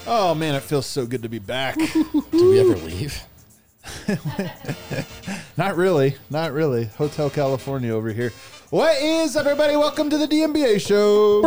Oh, man, it feels so good to be back. Did we ever leave? Not really. Not really. Hotel California over here. What is up, everybody? Welcome to the DNBA show.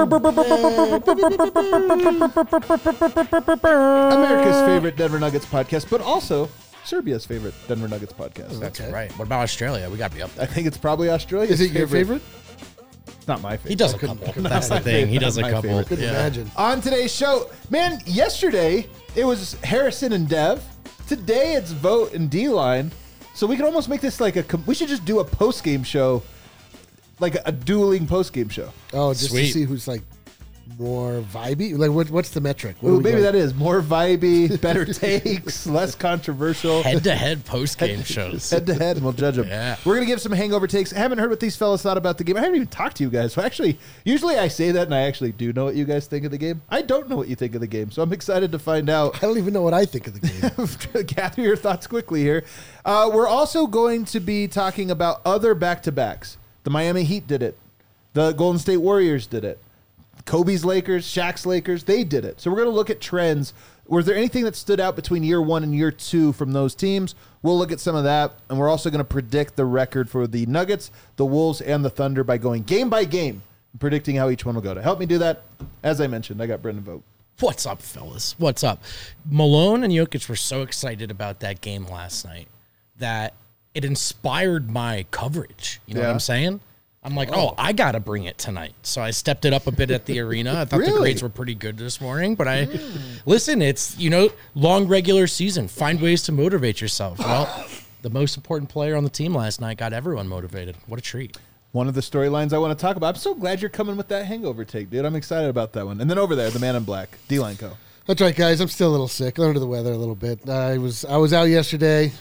America's favorite Denver Nuggets podcast, but also Serbia's favorite Denver Nuggets podcast. That's right. What about Australia? We got to be up I there. think it's probably Australia. Is it your favorite? It's not my favorite. He does a couple. That's the thing. He does a my couple. favorite. Couldn't imagine. On today's show, man, yesterday it was Harrison and Dev. Today it's Vote and D-Line. So we can almost make this like we should just do a post-game show, like a dueling post-game show. Oh, just Sweet. to see who's like more vibey. Like, what's the metric? What Ooh, are we maybe going? that is more vibey, better takes, less controversial. Head-to-head post-game shows. Head to head, and we'll judge them. Yeah. We're going to give some hangover takes. I haven't heard what these fellas thought about the game. I haven't even talked to you guys. So actually, usually I say that, and I actually do know what you guys think of the game. I don't know what you think of the game, so I'm excited to find out. I don't even know what I think of the game. Gather your thoughts quickly here. We're also going to be talking about other back-to-backs. The Miami Heat did it. The Golden State Warriors did it. Kobe's Lakers, Shaq's Lakers, they did it. So we're going to look at trends. Was there anything that stood out between year one and year two from those teams? We'll look at some of that, and we're also going to predict the record for the Nuggets, the Wolves, and the Thunder by going game by game, predicting how each one will go. To help me do that, as I mentioned, I got Brendan Vogt. What's up, fellas? What's up? Malone and Jokic were so excited about that game last night that it inspired my coverage. You know what Yeah. I'm saying? I'm like, I got to bring it tonight. So I stepped it up a bit at the arena. I thought the Really? grades were pretty good this morning. But listen, it's, long regular season. Find ways to motivate yourself. Well, the most important player on the team last night got everyone motivated. What a treat. One of the storylines I want to talk about. I'm so glad you're coming with that hangover take, dude. I'm excited about that one. And then over there, the man in black, D-Line Co. That's right, guys. I'm still a little sick, under the weather a little bit. I was out yesterday.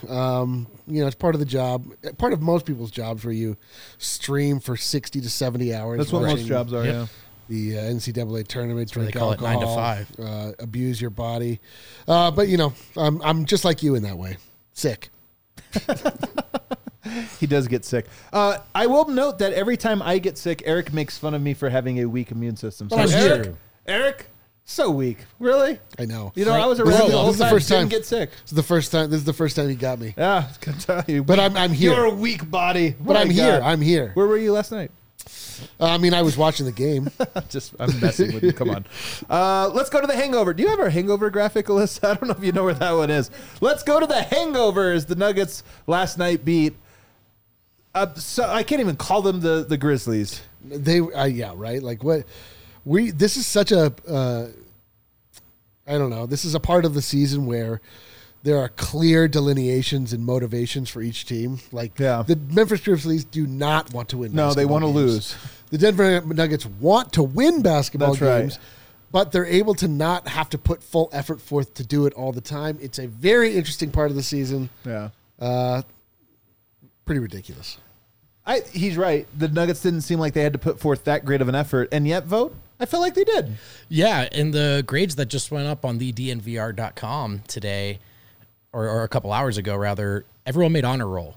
It's part of the job, part of most people's jobs where you stream for 60 to 70 hours. That's what most watching jobs are, Yep. The NCAA tournament, why they drink call it alcohol, 9 to 5. Abuse your body. But I'm just like you in that way, sick. He does get sick. I will note that every time I get sick, Eric makes fun of me for having a weak immune system. So Oh, sure. Eric, so weak. Really? I know. I was This around is the whole this is the time, first time. didn't get sick. This is the first time he got me. Yeah, I can tell you. But I'm here. You're a weak body. But My I'm here. God. I'm here. Where were you last night? I was watching the game. I'm messing with you. Come on. Let's go to the hangover. Do you have our hangover graphic, Alyssa? I don't know if you know where that one is. Let's go to the hangovers. The Nuggets last night beat. So I can't even call them the Grizzlies. Yeah, right. Like what this is such a I don't know. This is a part of the season where there are clear delineations and motivations for each team. Like the Memphis Grizzlies do not want to win. No, they want to games. lose. The Denver Nuggets want to win basketball That's right. games, but they're able to not have to put full effort forth to do it all the time. It's a very interesting part of the season. Yeah. Pretty ridiculous. He's right. The Nuggets didn't seem like they had to put forth that great of an effort, and yet, Vote, I felt like they did. Yeah, and the grades that just went up on the DNVR.com today, or a couple hours ago, rather, everyone made honor roll.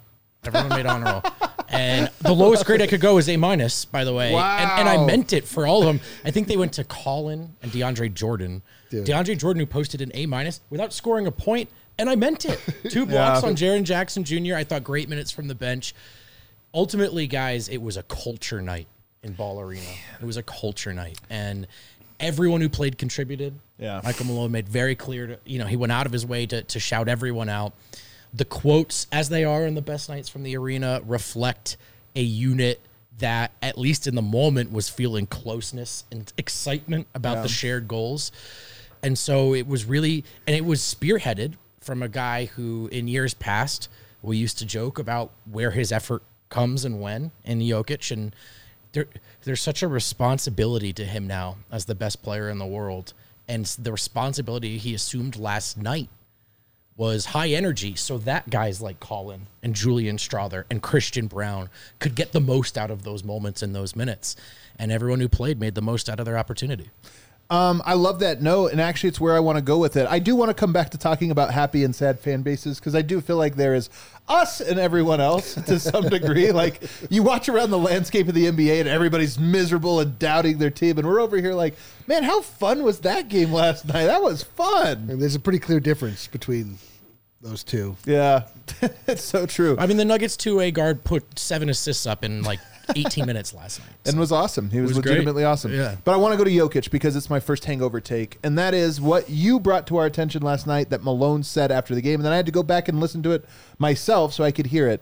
And the lowest grade I could go is A-, by the way. Wow. And I meant it for all of them. I think they went to Colin and DeAndre Jordan. Dude. DeAndre Jordan, who posted an A- without scoring a point, and I meant it. 2 blocks on Jaren Jackson Jr. I thought great minutes from the bench. Ultimately, guys, it was a culture night in Ball Arena. It was a culture night. And everyone who played contributed. Yeah. Michael Malone made very clear, he went out of his way to shout everyone out. The quotes, as they are in the best nights from the arena, reflect a unit that, at least in the moment, was feeling closeness and excitement about the shared goals. And so it was really, and it was spearheaded from a guy who, in years past, we used to joke about where his effort comes and when in Jokic, and there's such a responsibility to him now as the best player in the world, and the responsibility he assumed last night was high energy, so that guys like Colin and Julian Strawther and Christian Brown could get the most out of those moments and those minutes, and everyone who played made the most out of their opportunity. I love that note, and actually it's where I want to go with it. I do want to come back to talking about happy and sad fan bases, because I do feel like there is us and everyone else to some degree. Like, you watch around the landscape of the NBA and everybody's miserable and doubting their team, and we're over here like, man, how fun was that game last night? That was fun. And there's a pretty clear difference between those two. Yeah, it's so true. I mean, the Nuggets 2A guard put 7 assists up in like 18 minutes last night. And was awesome. He was was legitimately great. awesome. Yeah. But I want to go to Jokic because it's my first hangover take. And that is what you brought to our attention last night that Malone said after the game. And then I had to go back and listen to it myself so I could hear it.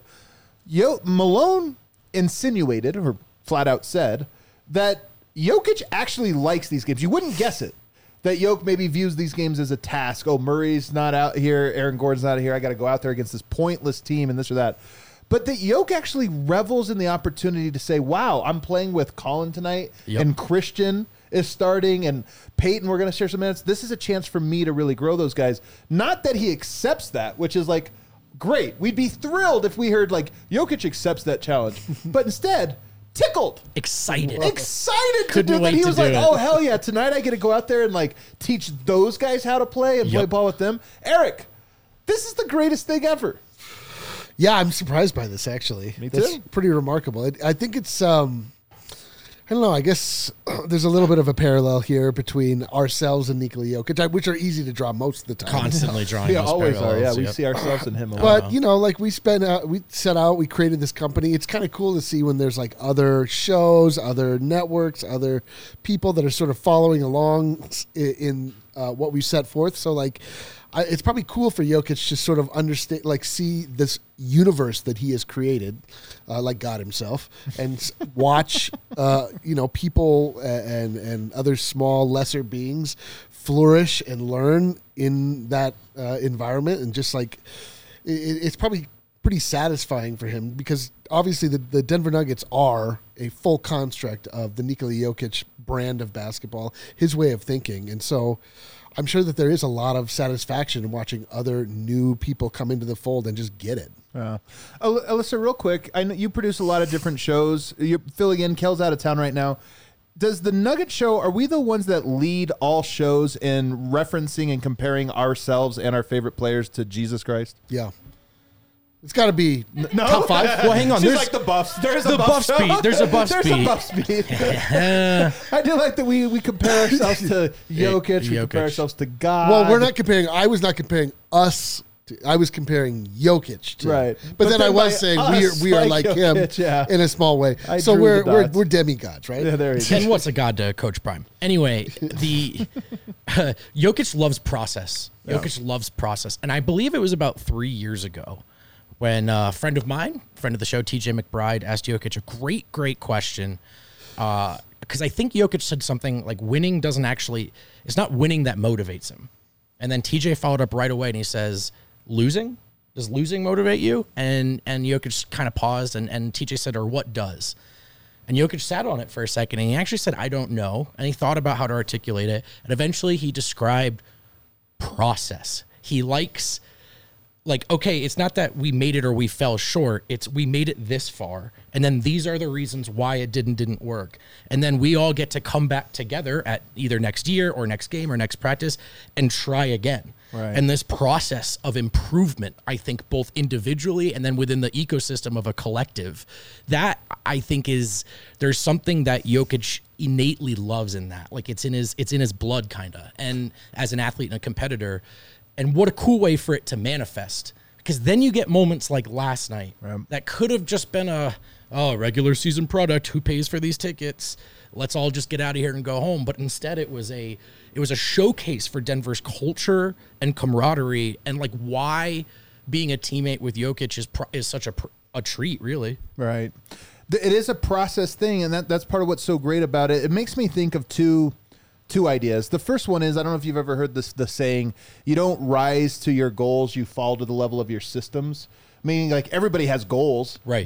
Malone insinuated, or flat out said, that Jokic actually likes these games. You wouldn't guess it. That Jokic maybe views these games as a task. Oh, Murray's not out here. Aaron Gordon's not here. I got to go out there against this pointless team and this or that. But that Jokic actually revels in the opportunity to say, wow, I'm playing with Colin tonight, and Christian is starting, and Peyton, we're going to share some minutes. This is a chance for me to really grow those guys. Not that he accepts that, which is like, great. We'd be thrilled if we heard, like, Jokic accepts that challenge. But instead, tickled. Excited To Couldn't do that. wait He to was do like, it. oh, hell yeah, tonight I get to go out there and, like, teach those guys how to play and play ball with them. Eric, this is the greatest thing ever. Yeah, I'm surprised by this, actually. Me too. That's pretty remarkable. I think it's, I don't know, I guess there's a little bit of a parallel here between ourselves and Nikola Jokic, which are easy to draw most of the time. constantly drawing We those always are, yeah. parallels. We Yep. see ourselves in him a lot. But, you know, like we set out, we created this company. It's kind of cool to see when there's like other shows, other networks, other people that are sort of following along in what we set forth. So, like, it's probably cool for Jokic to sort of understand, like, see this universe that he has created, like God himself, and watch, you know, people and other small, lesser beings flourish and learn in that environment. And just like, it's probably pretty satisfying for him, because obviously the Denver Nuggets are a full construct of the Nikola Jokic brand of basketball, his way of thinking. And so I'm sure that there is a lot of satisfaction in watching other new people come into the fold and just get it. Alyssa, real quick, I know you produce a lot of different shows. You're filling in. Kel's out of town right now. Does the Nugget Show, are we the ones that lead all shows in referencing and comparing ourselves and our favorite players to Jesus Christ? Yeah. It's got to be No? top 5. Well, hang on. She's There's like the Buffs. There's the a buff Buffs show. beat. There's a Buffs There's beat. a Buffs beat. I do like that we compare ourselves to Jokic. We compare Jokic. ourselves to God. Well, we're not comparing. I was not comparing us. I was comparing Jokic to. Right. But then I by was saying us, we are like him Jokic, yeah. in a small way. I So drew we're the dots. we're demigods, right? Yeah, there you go. And what's a god to Coach Prime? Anyway, the Jokic loves process. Jokic loves process. And I believe it was about 3 years ago when a friend of mine, friend of the show, TJ McBride, asked Jokic a great question. Because I think Jokic said something like winning doesn't actually, it's not winning that motivates him. And then TJ followed up right away and he says, losing? Does losing motivate you? And Jokic kind of paused and TJ said, or what does? And Jokic sat on it for a second and he actually said, I don't know. And he thought about how to articulate it. And eventually he described process. He likes, like, okay, it's not that we made it or we fell short. It's we made it this far. And then these are the reasons why it didn't work. And then we all get to come back together at either next year or next game or next practice and try again. Right. And this process of improvement, I think both individually and then within the ecosystem of a collective, that I think is, there's something that Jokic innately loves in that. Like it's in his blood kind of. And as an athlete and a competitor, and what a cool way for it to manifest. Because then you get moments like last night that could have just been a regular season product. Who pays for these tickets? Let's all just get out of here and go home. But instead it was a showcase for Denver's culture and camaraderie and like why being a teammate with Jokic is such a treat, really. Right. It is a process thing, and that's part of what's so great about it. It makes me think of two ideas. The first one is, I don't know if you've ever heard the saying, you don't rise to your goals, you fall to the level of your systems. Meaning, like, everybody has goals, right? But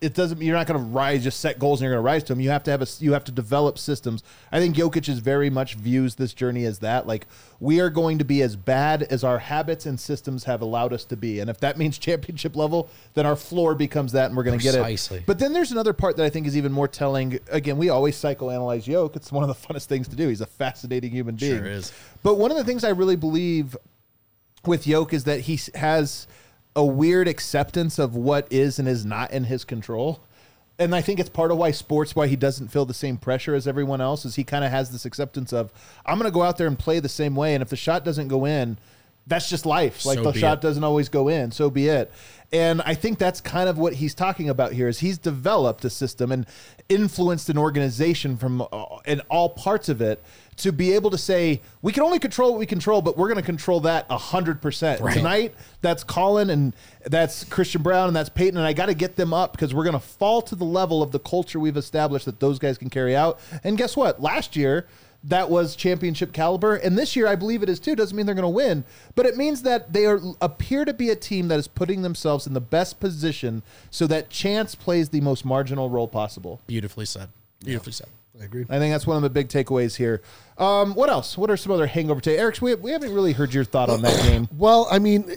it doesn't. You're not going to rise, just set goals, and you're going to rise to them. You have to you have to develop systems. I think Jokic is very much views this journey as that. Like, we are going to be as bad as our habits and systems have allowed us to be, and if that means championship level, then our floor becomes that, and we're going to get it. But then there's another part that I think is even more telling. Again, we always psychoanalyze Jokic. It's one of the funnest things to do. He's a fascinating human being. Sure is. But one of the things I really believe with Jokic is that he has a weird acceptance of what is and is not in his control. And I think it's part of why he doesn't feel the same pressure as everyone else, is he kind of has this acceptance of, I'm going to go out there and play the same way. And if the shot doesn't go in, that's just life. Like, the shot doesn't always go in. So be it. And I think that's kind of what he's talking about here, is he's developed a system and influenced an organization from in all parts of it to be able to say, we can only control what we control, but we're going to control that 100%. Right. Tonight, that's Colin and that's Christian Braun and that's Peyton, and I got to get them up because we're going to fall to the level of the culture we've established that those guys can carry out. And guess what? Last year, that was championship caliber, and this year I believe it is too. Doesn't mean they're going to win, but it means that they appear to be a team that is putting themselves in the best position so that chance plays the most marginal role possible. Beautifully said. Beautifully said. I agree. I think that's one of the big takeaways here. What else? What are some other hangover takes? Eric, we haven't really heard your thought on that game. Well, I mean,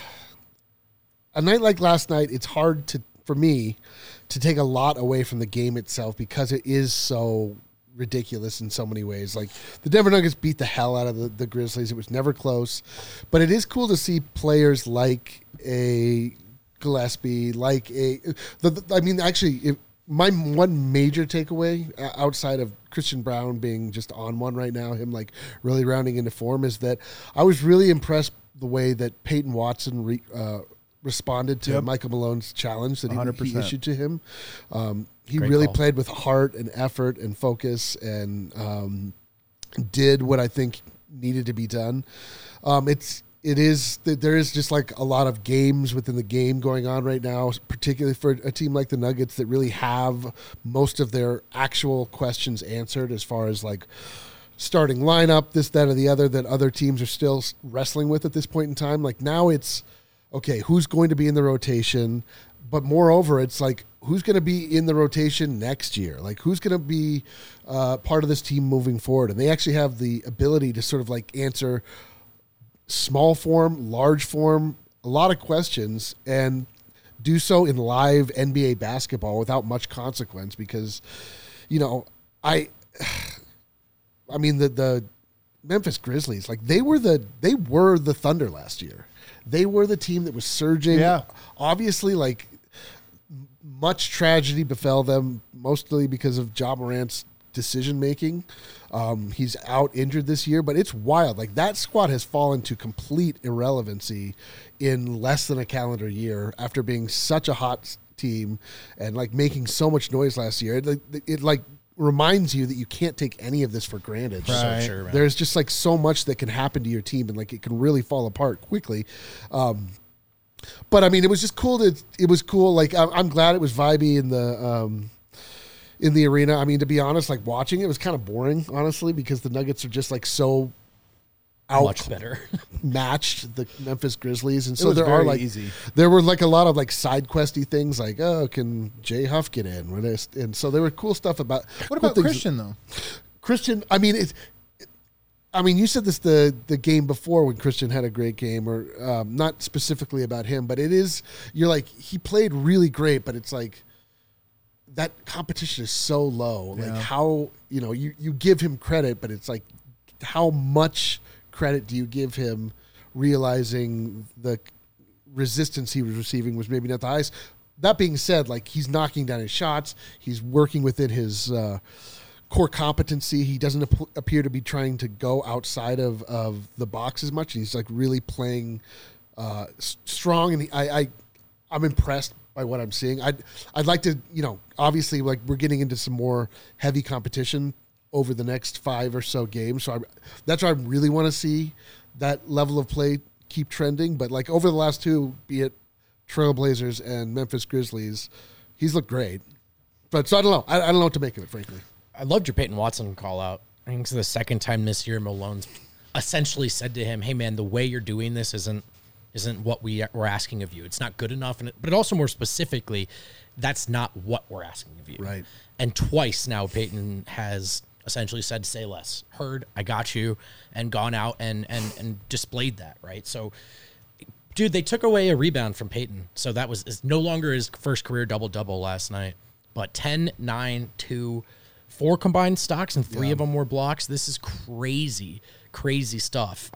a night like last night, it's hard for me to take a lot away from the game itself because it is so ridiculous in so many ways. Like, the Denver Nuggets beat the hell out of the Grizzlies. It was never close. But it is cool to see players like a Gillespie, my one major takeaway outside of Christian Braun being just on one right now, him like really rounding into form, is that I was really impressed the way that Peyton Watson responded to Michael Malone's challenge that he issued to him. He Great really call. Played with heart and effort and focus and did what I think needed to be done. There is just like a lot of games within the game going on right now, particularly for a team like the Nuggets that really have most of their actual questions answered as far as like starting lineup, this, that, or the other, that other teams are still wrestling with at this point in time. Like, now it's, okay, who's going to be in the rotation? But moreover, it's like, who's going to be in the rotation next year? Like, who's going to be part of this team moving forward? And they actually have the ability to sort of like answer small form, large form, a lot of questions, and do so in live NBA basketball without much consequence because, I mean, the Memphis Grizzlies, like, they were the Thunder last year. They were the team that was surging. Yeah. Obviously, like, much tragedy befell them, mostly because of Ja Morant's decision-making. He's out injured this year, but it's wild. Like, that squad has fallen to complete irrelevancy in less than a calendar year after being such a hot team and, like, making so much noise last year. It reminds you that you can't take any of this for granted. Right. So sure, man. There's just, like, so much that can happen to your team, and, like, it can really fall apart quickly. But, I mean, it was just cool. It was cool. Like, I'm glad it was vibey in the arena. I mean, to be honest, like, watching it was kind of boring, honestly, because the Nuggets are just like so much better matched the Memphis Grizzlies, and so there are like easy. There were like a lot of like side questy things, like, oh, can Jay Huff get in? And so there were cool stuff about. What about Christian though? Christian, I mean, you said this the game before when Christian had a great game, or not specifically about him, but you're like, he played really great, but it's like, that competition is so low. Like, how, you give him credit, but it's like, how much credit do you give him, realizing the resistance he was receiving was maybe not the highest? That being said, like, he's knocking down his shots. He's working within his core competency. He doesn't appear to be trying to go outside of the box as much. He's like really playing strong, and I'm impressed by what I'm seeing. I'd like to, obviously, like, we're getting into some more heavy competition over the next 5 or so games. So that's why I really want to see that level of play keep trending. But like, over the last 2, be it Trailblazers and Memphis Grizzlies, he's looked great. But so I don't know. I don't know what to make of it, frankly. I loved your Peyton Watson call out. I think it's the second time this year Malone's essentially said to him, hey man, the way you're doing this isn't isn't what we're asking of you. It's not good enough. But also more specifically, that's not what we're asking of you. Right. And twice now Peyton has essentially said, say less, heard, I got you, and gone out and displayed that, right? So, dude, they took away a rebound from Peyton. So that is no longer his first career double-double last night. But 10, 9, 2, 4 combined stocks, and 3 of them were blocks. This is crazy stuff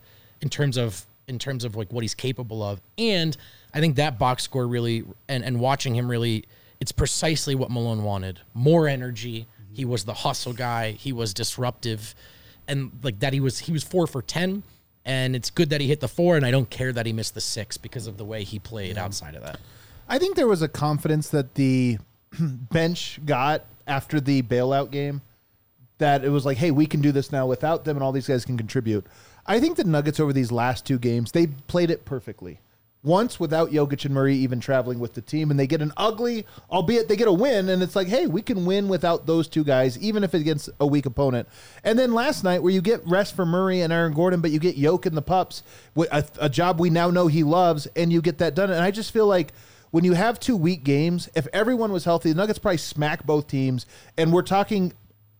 in terms of like what he's capable of. And I think that box score really, and watching him really, it's precisely what Malone wanted. More energy. He was the hustle guy. He was disruptive, and like that he was 4 for 10. And it's good that he hit the 4, and I don't care that he missed the 6 because of the way he played outside of that. I think there was a confidence that the bench got after the bailout game, that it was like, hey, we can do this now without them, and all these guys can contribute. I think the Nuggets over these last 2 games, they played it perfectly. Once without Jokic and Murray even traveling with the team, and they get an ugly, albeit they get a win, and it's like, hey, we can win without those 2 guys, even if it's against a weak opponent. And then last night, where you get rest for Murray and Aaron Gordon, but you get Jokic and the Pups, a job we now know he loves, and you get that done. And I just feel like when you have 2 weak games, if everyone was healthy, the Nuggets probably smack both teams, and we're talking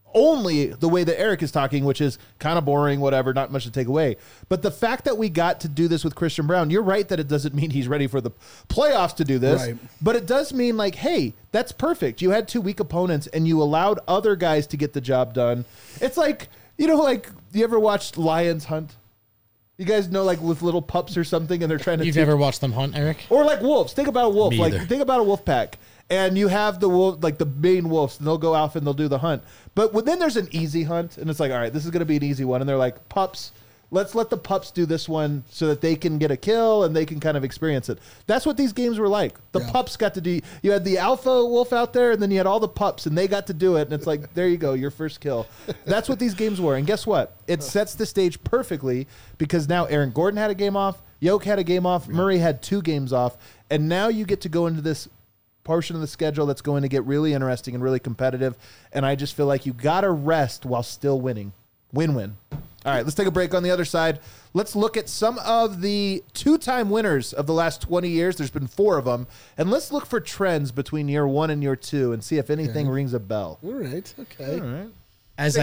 only the way that Eric is talking, which is kind of boring, whatever, not much to take away. But the fact that we got to do this with Christian Brown, you're right that it doesn't mean he's ready for the playoffs to do this, right. But it does mean like, hey, that's perfect. You had 2 weak opponents and you allowed other guys to get the job done. It's like, like you ever watched lions hunt? You guys know, like with little pups or something, and they're trying to. You've never watched them hunt, Eric? Or like wolves. Think about a wolf. Me Like either. think about a wolf pack. And you have the wolf, like the main wolves, and they'll go out and they'll do the hunt. But then there's an easy hunt, and it's like, all right, this is going to be an easy one. And they're like, pups, let's let the pups do this one so that they can get a kill and they can kind of experience it. That's what these games were like. The pups got to do. You had the alpha wolf out there, and then you had all the pups, and they got to do it. And it's like, there you go, your first kill. That's what these games were. And guess what? It sets the stage perfectly, because now Aaron Gordon had a game off, Jokic had a game off, Murray had 2 games off, and now you get to go into this portion of the schedule that's going to get really interesting and really competitive. And I just feel like you got to rest while still winning. Win-win. All right, let's take a break. On the other side, let's look at some of the 2-time winners of the last 20 years. There's been 4 of them. And let's look for trends between year 1 and year 2 and see if anything rings a bell. All right. Okay. All right. As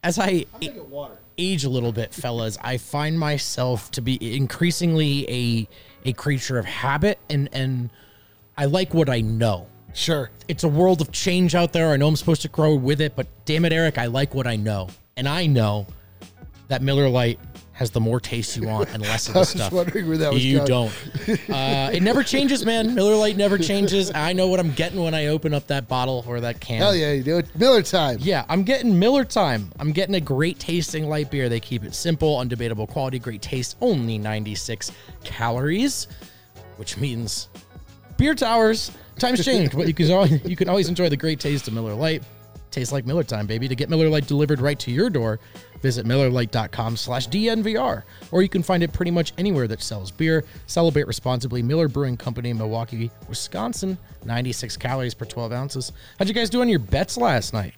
I age a little bit, fellas, I find myself to be increasingly a creature of habit, and I like what I know. Sure. It's a world of change out there. I know I'm supposed to grow with it, but damn it, Eric, I like what I know. And I know that Miller Lite has the more taste you want and less of the stuff. I was wondering where that was you going. don't. It never changes, man. Miller Lite never changes. I know what I'm getting when I open up that bottle or that can. Hell yeah, you do it. Miller time. Yeah, I'm getting Miller time. I'm getting a great tasting light beer. They keep it simple, undebatable quality, great taste, only 96 calories, which means beer towers. Times change, but you can always enjoy the great taste of Miller Lite. Tastes like Miller time, baby. To get Miller Lite delivered right to your door, visit MillerLite.com/DNVR, or you can find it pretty much anywhere that sells beer. Celebrate responsibly. Miller Brewing Company, Milwaukee, Wisconsin. 96 calories per 12 ounces. How'd you guys do on your bets last night?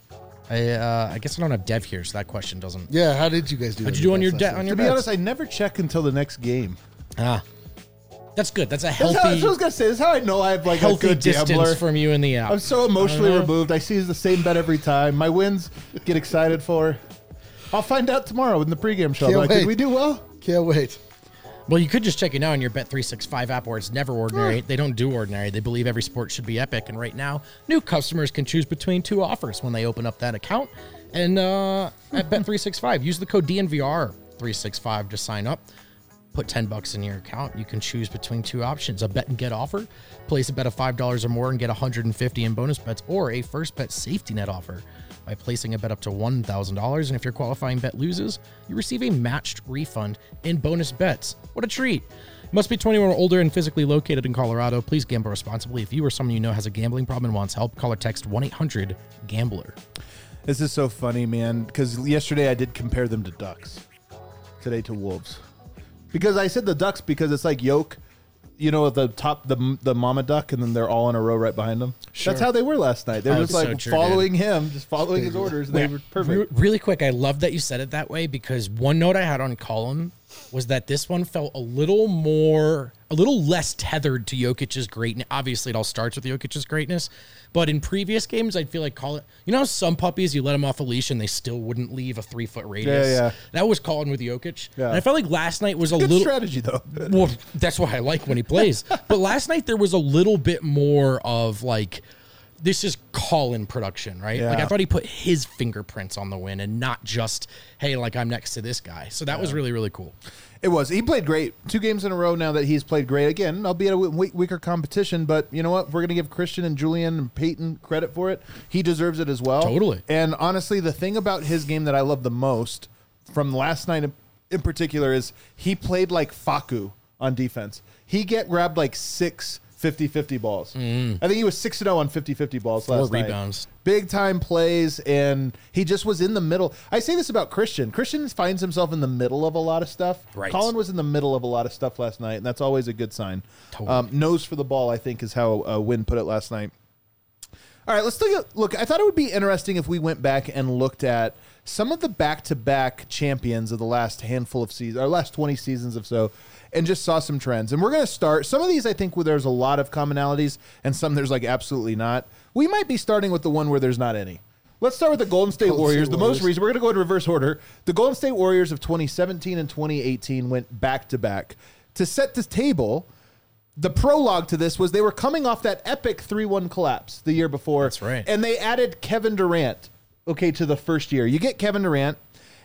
I guess I don't have Dev here, so that question doesn't. Yeah, how did you guys do? How'd you do on your bets? on your To be bets? honest, I never check until the next game. That's good. That's a That's what I healthy, was going to say. That's how I know I have like a healthy good distance gambler. from you in the app. I'm so emotionally Uh-huh. removed. I see the same bet every time. My wins get excited for. I'll find out tomorrow in the pregame show. Can't Like, wait. did we do well? Can't wait. Well, you could just check it now on your Bet365 app, where it's never ordinary. They don't do ordinary. They believe every sport should be epic. And right now, new customers can choose between 2 offers when they open up that account. And at Bet365, use the code DNVR365 to sign up. Put $10 in your account. You can choose between 2 options: a bet and get offer. Place a bet of $5 or more and get $150 in bonus bets, or a first bet safety net offer. By placing a bet up to $1,000, and if your qualifying bet loses, you receive a matched refund in bonus bets. What a treat! Must be 21 or older and physically located in Colorado. Please gamble responsibly. If you or someone you know has a gambling problem and wants help, call or text 1-800-GAMBLER. This is so funny, man, because yesterday I did compare them to ducks. Today to wolves. Because I said the ducks because it's like yoke, at the top, the mama duck, and then they're all in a row right behind them. Sure. That's how they were last night. They were Oh, just it's like so true, following him, just following his orders. And they were perfect. Really quick, I love that you said it that way, because one note I had on Colin was that this one felt a little less tethered to Jokic's greatness. Obviously, it all starts with Jokic's greatness, but in previous games, I'd feel like some puppies, you let them off a leash and they still wouldn't leave a 3-foot radius. Yeah. That was Colin with Jokic. Yeah. And I felt like last night was a Good little strategy, though. Well, that's why I like when he plays. But last night there was a little bit more of like, this is Colin production, right? Yeah. Like I thought he put his fingerprints on the win and not just, hey, like I'm next to this guy. So that was really, really cool. It was. He played great. 2 games in a row now that he's played great. Again, albeit a weaker competition, but you know what? We're going to give Christian and Julian and Peyton credit for it. He deserves it as well. Totally. And honestly, the thing about his game that I love the most from last night in particular is he played like Facu on defense. He grabbed like 6 50-50 balls. I think he was 6-0 on 50-50 balls last 4 rebounds. night. Big time plays, and he just was in the middle. I say this about Christian. Christian finds himself in the middle of a lot of stuff. Right. Colin was in the middle of a lot of stuff last night, and that's always a good sign. Totally. Nose for the ball, I think, is how Wynn put it last night. All right, let's look. I thought it would be interesting if we went back and looked at some of the back-to-back champions of the last handful of seasons, or last 20 seasons or so, and just saw some trends. And we're going to start. Some of these, I think, where there's a lot of commonalities, and some there's like absolutely not. We might be starting with the one where there's not any. Let's start with the Golden State Warriors. The most recent. We're going to go in reverse order. The Golden State Warriors of 2017 and 2018 went back-to-back. To set the table, the prologue to this was they were coming off that epic 3-1 collapse the year before. That's right. And they added Kevin Durant, to the first year. You get Kevin Durant,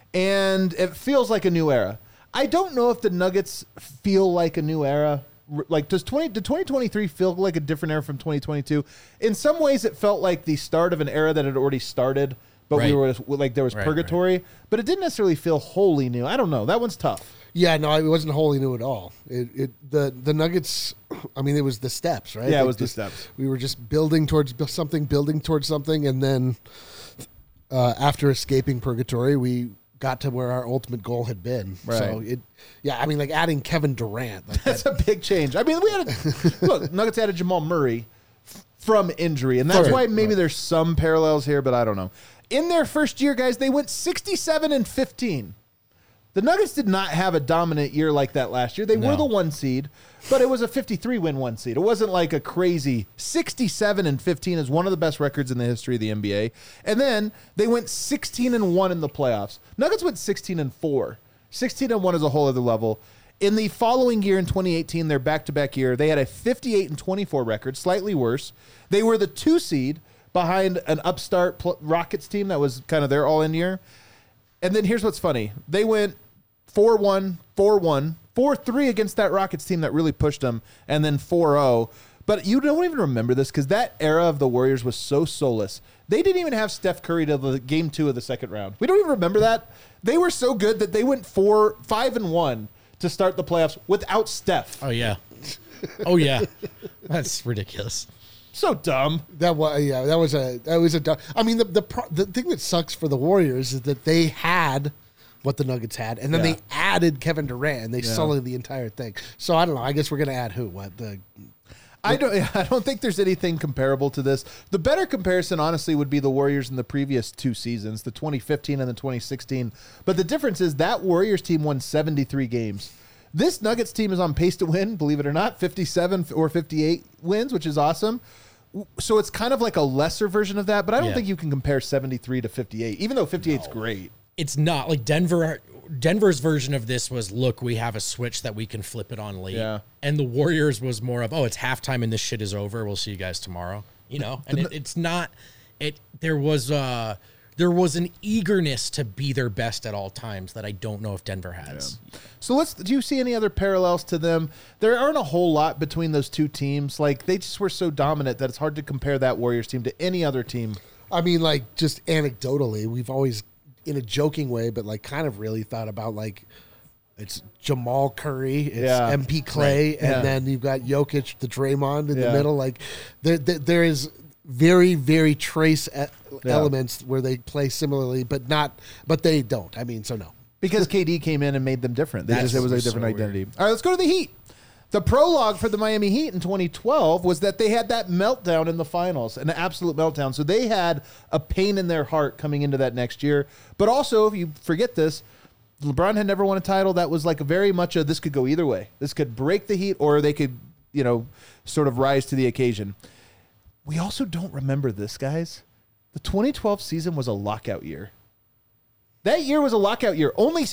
and it feels like a new era. I don't know if the Nuggets feel like a new era. Like, did 2023 feel like a different era from 2022? In some ways, it felt like the start of an era that had already started, but Right. we were like there was purgatory. But it didn't necessarily feel wholly new. I don't know. That one's tough. Yeah, no, it wasn't wholly new at all. The Nuggets, I mean, it was the steps, right? Yeah, it Like was the just- steps. We were just building towards something, and then after escaping purgatory, we got to where our ultimate goal had been. Right. So I mean, like adding Kevin Durant, like That's a big change. I mean, look, Nuggets added Jamal Murray from injury, and that's Right. why maybe there's some parallels here, but I don't know. In their first year, guys, they went 67-15. The Nuggets did not have a dominant year like that last year. They were the 1 seed, but it was a 53-win 1 seed. It wasn't like a crazy 67-15 is one of the best records in the history of the NBA. And then they went 16-1 in the playoffs. Nuggets went 16-4. 16-1 is a whole other level. In the following year, in 2018, their back-to-back year, they had a 58-24 record, slightly worse. They were the 2 seed behind an upstart Rockets team that was kind of their all-in year. And then here's what's funny. They went 4-1, 4-1, 4-3 against that Rockets team that really pushed them, and then 4-0. But you don't even remember this because that era of the Warriors was so soulless. They didn't even have Steph Curry to the game 2 of the second round. We don't even remember that. They were so good that they went 5-1 to start the playoffs without Steph. Oh, yeah. Oh, yeah. That's ridiculous. So dumb. that was a. I mean, the thing that sucks for the Warriors is that they had what the Nuggets had, and then Yeah. they added Kevin Durant, and they sullied the entire thing. So I don't know. I guess we're gonna add who? What the? I don't think there's anything comparable to this. The better comparison, honestly, would be the Warriors in the previous 2 seasons, the 2015 and the 2016. But the difference is that Warriors team won 73 games. This Nuggets team is on pace to win, believe it or not, 57 or 58 wins, which is awesome. So it's kind of like a lesser version of that, but I don't Yeah. think you can compare 73 to 58, even though 58's great. It's not like Denver's version of this was, look, we have a switch that we can flip it on late. Yeah. And the Warriors was more of, oh, it's halftime and this shit is over. We'll see you guys tomorrow. You know, and it's not, there was an eagerness to be their best at all times that I don't know if Denver has. So do you see any other parallels to them? There aren't a whole lot between those 2 teams. Like, they just were so dominant that it's hard to compare that Warriors team to any other team. I mean, like just anecdotally, we've always, in a joking way, but like kind of really thought about like it's Jamal Curry, it's MP Clay, and then you've got Jokic, the Draymond in the middle. Like there is very, very trace elements where they play similarly, but they don't. I mean, so no. Because KD came in and made them different. It was a different so identity. All right, let's go to the Heat. The prologue for the Miami Heat in 2012 was that they had that meltdown in the finals, an absolute meltdown. So they had a pain in their heart coming into that next year. But also, if you forget this, LeBron had never won a title. That was like a very much a this could go either way. This could break the Heat, or they could, sort of rise to the occasion. We also don't remember this, guys. The 2012 season was a lockout year. That year was a lockout year. Only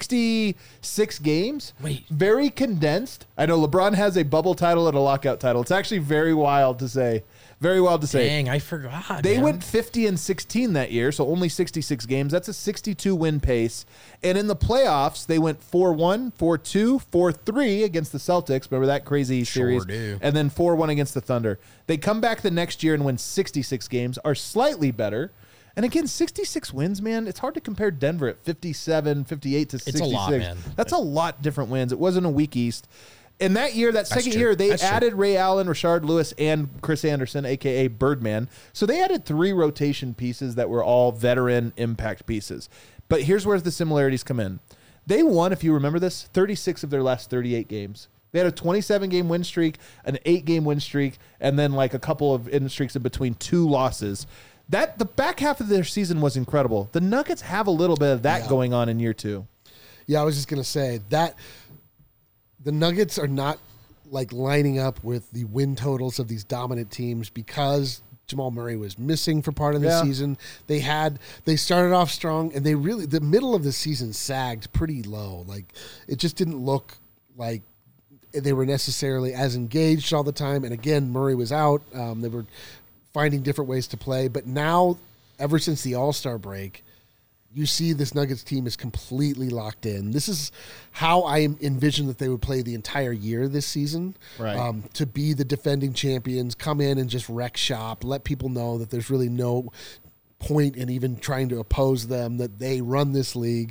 66 games. Wait. Very condensed. I know LeBron has a bubble title and a lockout title. It's actually very wild to say. Very wild to say. Dang, I forgot. They man. went 50-16 that year, so only 66 games. That's a 62-win pace. And in the playoffs, they went 4-1, 4-2, 4-3 against the Celtics. Remember that crazy series? do. And then 4-1 against the Thunder. They come back the next year and win 66 games, are slightly better. And again, 66 wins, man. It's hard to compare Denver at 57, 58 to 66. It's a lot, man. That's a lot different wins. It wasn't a weak East. In that year, that second true. year, they That's true. added Ray Allen, Rashard Lewis, and Chris Anderson, a.k.a. Birdman. So they added 3 rotation pieces that were all veteran impact pieces. But here's where the similarities come in. They won, if you remember this, 36 of their last 38 games. They had a 27-game win streak, an 8-game win streak, and then like a couple of win streaks in between 2 losses. The back half of their season was incredible. The Nuggets have a little bit of that going on in year 2. Yeah, I was just going to say that the Nuggets are not like lining up with the win totals of these dominant teams because Jamal Murray was missing for part of the season. They started off strong, and the middle of the season sagged pretty low. Like, it just didn't look like they were necessarily as engaged all the time. And again, Murray was out. They were finding different ways to play. But now, ever since the All-Star break, you see this Nuggets team is completely locked in. This is how I envisioned that they would play the entire year this season. Right. To be the defending champions, come in and just wreck shop, let people know that there's really no point in even trying to oppose them, that they run this league.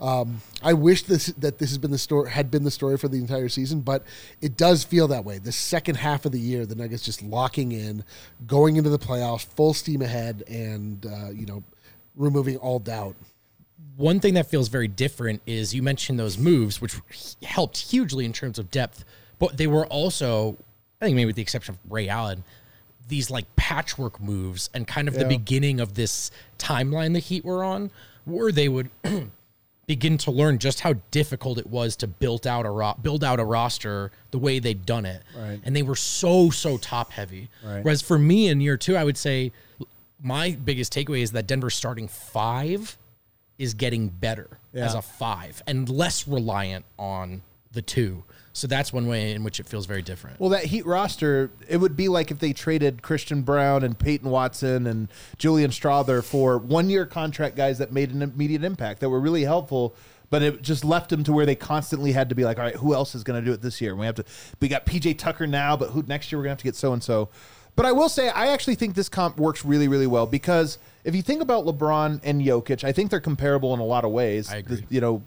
I wish that this had been the story for the entire season, but it does feel that way. The second half of the year, the Nuggets just locking in, going into the playoffs, full steam ahead, and removing all doubt. One thing that feels very different is you mentioned those moves, which helped hugely in terms of depth, but they were also, I think maybe with the exception of Ray Allen, these like patchwork moves and kind of the beginning of this timeline the Heat were on, where they would begin to learn just how difficult it was to build out a roster the way they'd done it. Right. And they were so top heavy. Right. Whereas for me in year 2, I would say my biggest takeaway is that Denver's starting 5 is getting better as a 5 and less reliant on the 2. So that's one way in which it feels very different. Well, that Heat roster, it would be like if they traded Christian Brown and Peyton Watson and Julian Strawther for 1-year contract guys that made an immediate impact, that were really helpful, but it just left them to where they constantly had to be like, all right, who else is going to do it this year? We got PJ Tucker now, but who next year we're going to have to get so-and-so. But I will say, I actually think this comp works really, really well because if you think about LeBron and Jokic, I think they're comparable in a lot of ways. I agree.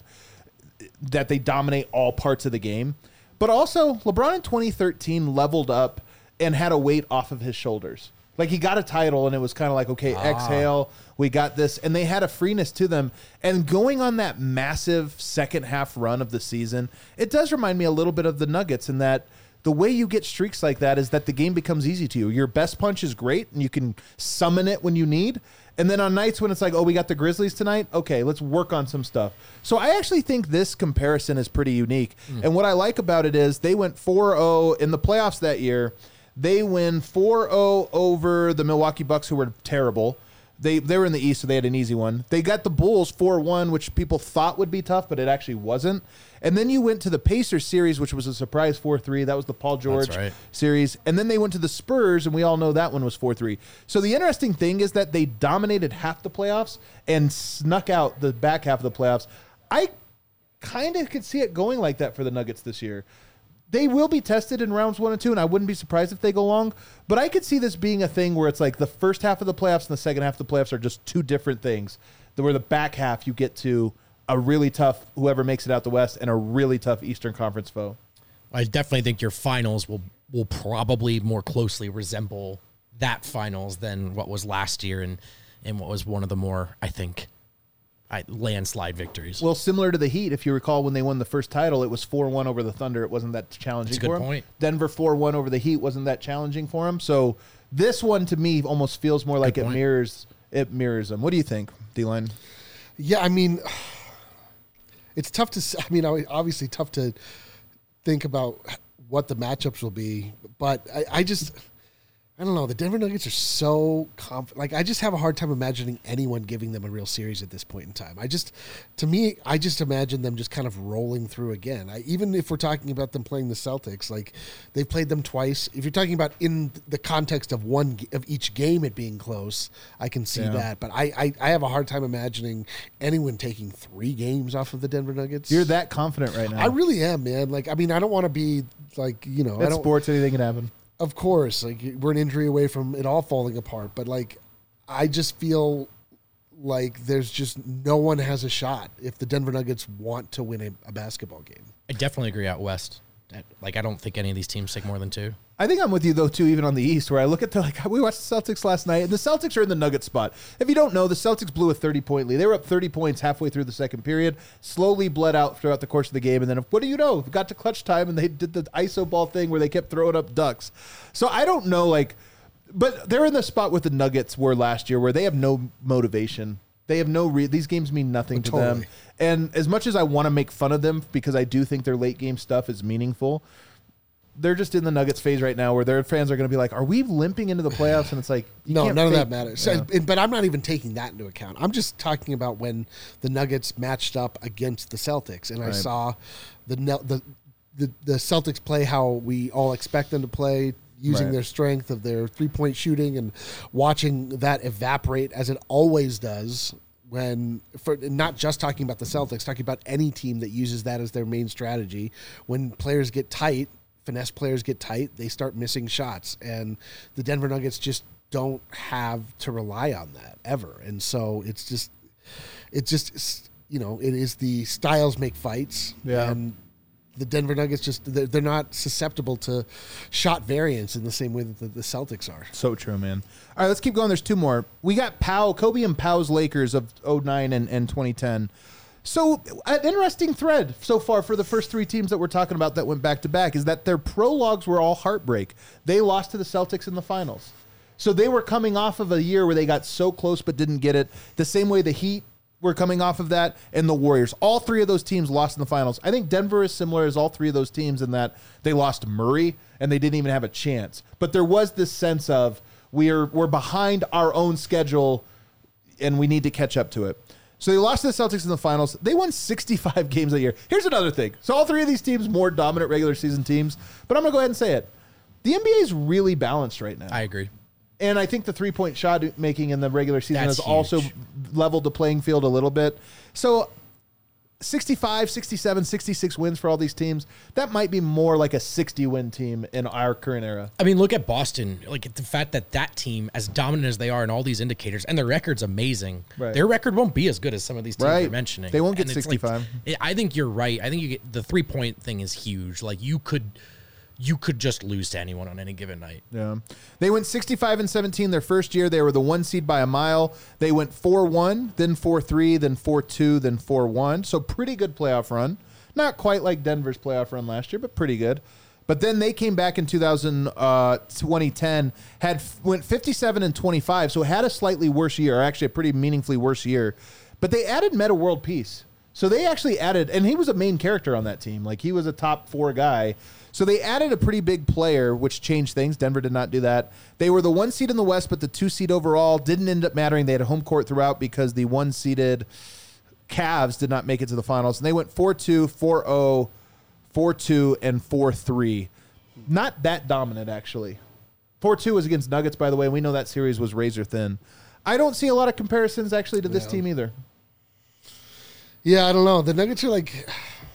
That they dominate all parts of the game. But also, LeBron in 2013 leveled up and had a weight off of his shoulders. Like, he got a title, and it was kind of like, okay, exhale, we got this. And they had a freeness to them. And going on that massive second half run of the season, it does remind me a little bit of the Nuggets in that the way you get streaks like that is that the game becomes easy to you. Your best punch is great, and you can summon it when you need. And then on nights when it's like, oh, we got the Grizzlies tonight, okay, let's work on some stuff. So I actually think this comparison is pretty unique. And what I like about it is they went 4-0 in the playoffs that year. They win 4-0 over the Milwaukee Bucks, who were terrible. They were in the East, so they had an easy one. They got the Bulls 4-1, which people thought would be tough, but it actually wasn't. And then you went to the Pacers series, which was a surprise 4-3. That was the Paul George series. And then they went to the Spurs, and we all know that one was 4-3. So the interesting thing is that they dominated half the playoffs and snuck out the back half of the playoffs. I kind of could see it going like that for the Nuggets this year. They will be tested in rounds 1 and 2, and I wouldn't be surprised if they go long. But I could see this being a thing where it's like the first half of the playoffs and the second half of the playoffs are just 2 different things. Where the back half you get to a really tough whoever makes it out the West and a really tough Eastern Conference foe. I definitely think your finals will probably more closely resemble that finals than what was last year and what was one of the more, I think, landslide victories. Well, similar to the Heat, if you recall when they won the first title, it was 4-1 over the Thunder. It wasn't that challenging for them. That's a good point. Denver 4-1 over the Heat wasn't that challenging for them. So this one to me almost feels more like it mirrors them. What do you think, D-Line? Yeah, I mean, it's tough to. I mean, obviously tough to think about what the matchups will be, but I don't know. The Denver Nuggets are so like, I just have a hard time imagining anyone giving them a real series at this point in time. I just imagine them just kind of rolling through again. Even if we're talking about them playing the Celtics, like they've played them twice. If you're talking about in the context of one of each game it being close, I can see that. But I have a hard time imagining anyone taking 3 games off of the Denver Nuggets. You're that confident right now. I really am, man. Like, I mean, I don't want to be like, That's sports, anything can happen. Of course, like we're an injury away from it all falling apart, but like I just feel like there's just no one has a shot if the Denver Nuggets want to win a basketball game. I definitely agree out west. Like, I don't think any of these teams take more than 2. I think I'm with you, though, too, even on the East, where I look at we watched the Celtics last night, and the Celtics are in the Nugget spot. If you don't know, the Celtics blew a 30-point lead. They were up 30 points halfway through the second period, slowly bled out throughout the course of the game, and then, what do you know? Got to clutch time, and they did the iso ball thing where they kept throwing up ducks. So I don't know, but they're in the spot with the Nuggets were last year, where they have no motivation. They have these games mean nothing to them. And as much as I want to make fun of them, because I do think their late game stuff is meaningful, they're just in the Nuggets phase right now where their fans are going to be like, are we limping into the playoffs? And it's like, none of that matters. Yeah. But I'm not even taking that into account. I'm just talking about when the Nuggets matched up against the Celtics, and I saw the Celtics play how we all expect them to play, using their strength of their 3-point shooting and watching that evaporate as it always does. Not just talking about the Celtics, talking about any team that uses that as their main strategy. When players get tight, finesse players get tight, they start missing shots, and the Denver Nuggets just don't have to rely on that ever. And so it is the styles make fights. Yeah. And the Denver Nuggets they're not susceptible to shot variance in the same way that the Celtics are. So true, man. All right, let's keep going. There's 2 more. We got Kobe and Powell's Lakers of 2009 and 2010. So an interesting thread so far for the first 3 teams that we're talking about that went back-to-back is that their prologues were all heartbreak. They lost to the Celtics in the finals. So they were coming off of a year where they got so close but didn't get it, the same way the Heat were coming off of that, and the Warriors. All 3 of those teams lost in the finals. I think Denver is similar as all 3 of those teams in that they lost Murray, and they didn't even have a chance. But there was this sense of we're behind our own schedule, and we need to catch up to it. So they lost to the Celtics in the finals. They won 65 games that year. Here's another thing. So all 3 of these teams, more dominant regular season teams. But I'm going to go ahead and say it. The NBA is really balanced right now. I agree. And I think the 3-point shot making in the regular season That's has also huge. leveled the playing field a little bit. So 65, 67, 66 wins for all these teams. That might be more like a 60-win team in our current era. I mean, look at Boston. Like, the fact that team, as dominant as they are in all these indicators, and their record's amazing, their record won't be as good as some of these teams you're mentioning. They won't get And it's 65. I think you're right. I think you get the 3-point thing is huge. Like, you could just lose to anyone on any given night. Yeah. They went 65-17 their first year. They were the 1 seed by a mile. They went 4-1, then 4-3, then 4-2, then 4-1. So pretty good playoff run. Not quite like Denver's playoff run last year, but pretty good. But then they came back in 2010, went 57-25, so had a slightly worse year, or actually a pretty meaningfully worse year. But they added Metta World Peace. So they actually added, and he was a main character on that team. Like, he was a top 4 guy. So they added a pretty big player, which changed things. Denver did not do that. They were the 1 seed in the West, but the 2 seed overall didn't end up mattering. They had a home court throughout because the 1-seeded Cavs did not make it to the finals. And they went 4-2, 4-0, 4-2, and 4-3. Not that dominant, actually. 4-2 was against Nuggets, by the way. We know that series was razor thin. I don't see a lot of comparisons, actually, to this team either. Yeah, I don't know. The Nuggets are like...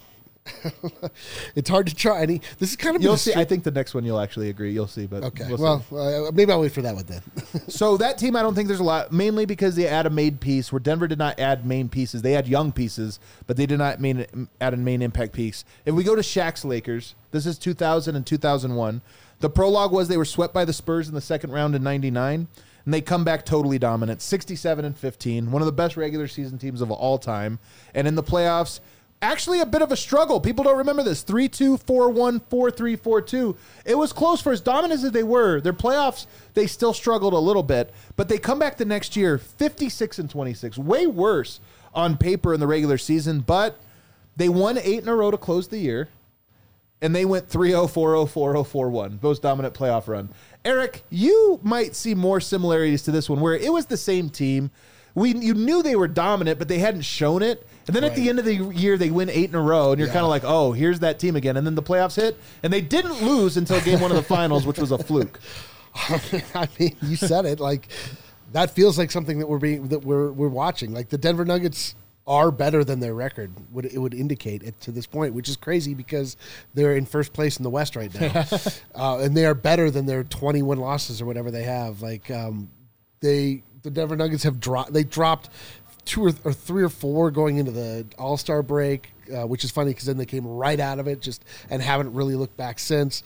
it's hard to try any. This is kind of you'll see. I think the next one you'll actually agree. You'll see, but okay. We'll see. Maybe I'll wait for that one then. So that team, I don't think there's a lot, mainly because they add a made piece. Where Denver did not add main pieces, they had young pieces, but they did not add a main impact piece. If we go to Shaq's Lakers, this is 2000 and 2001. The prologue was they were swept by the Spurs in the second round in '99. And they come back totally dominant, 67-15, one of the best regular season teams of all time. And in the playoffs, actually a bit of a struggle. People don't remember this. 3-2, 4-1, 4-3, 4-2. It was close for as dominant as they were. Their playoffs, they still struggled a little bit. But they come back the next year, 56-26. Way worse on paper in the regular season. But They won 8 in a row to close the year, and they went 3-0, 4-0, 4-0, 4-1. Most dominant playoff run. Eric, you might see more similarities to this one, where it was the same team. You knew they were dominant, but they hadn't shown it. And then at the end of the year, they win 8 in a row, and you're kind of like, oh, here's that team again. And then the playoffs hit, and they didn't lose until game 1 of the finals, which was a fluke. I mean, you said it. Like, that feels like something that we're watching. Like, the Denver Nuggets are better than their record would indicate it to this point, which is crazy because they're in first place in the West right now, and they are better than their 21 losses or whatever they have. Like, the Denver Nuggets have dropped 2 or 3 or 4 going into the All-Star break, which is funny because then they came right out of it and haven't really looked back since.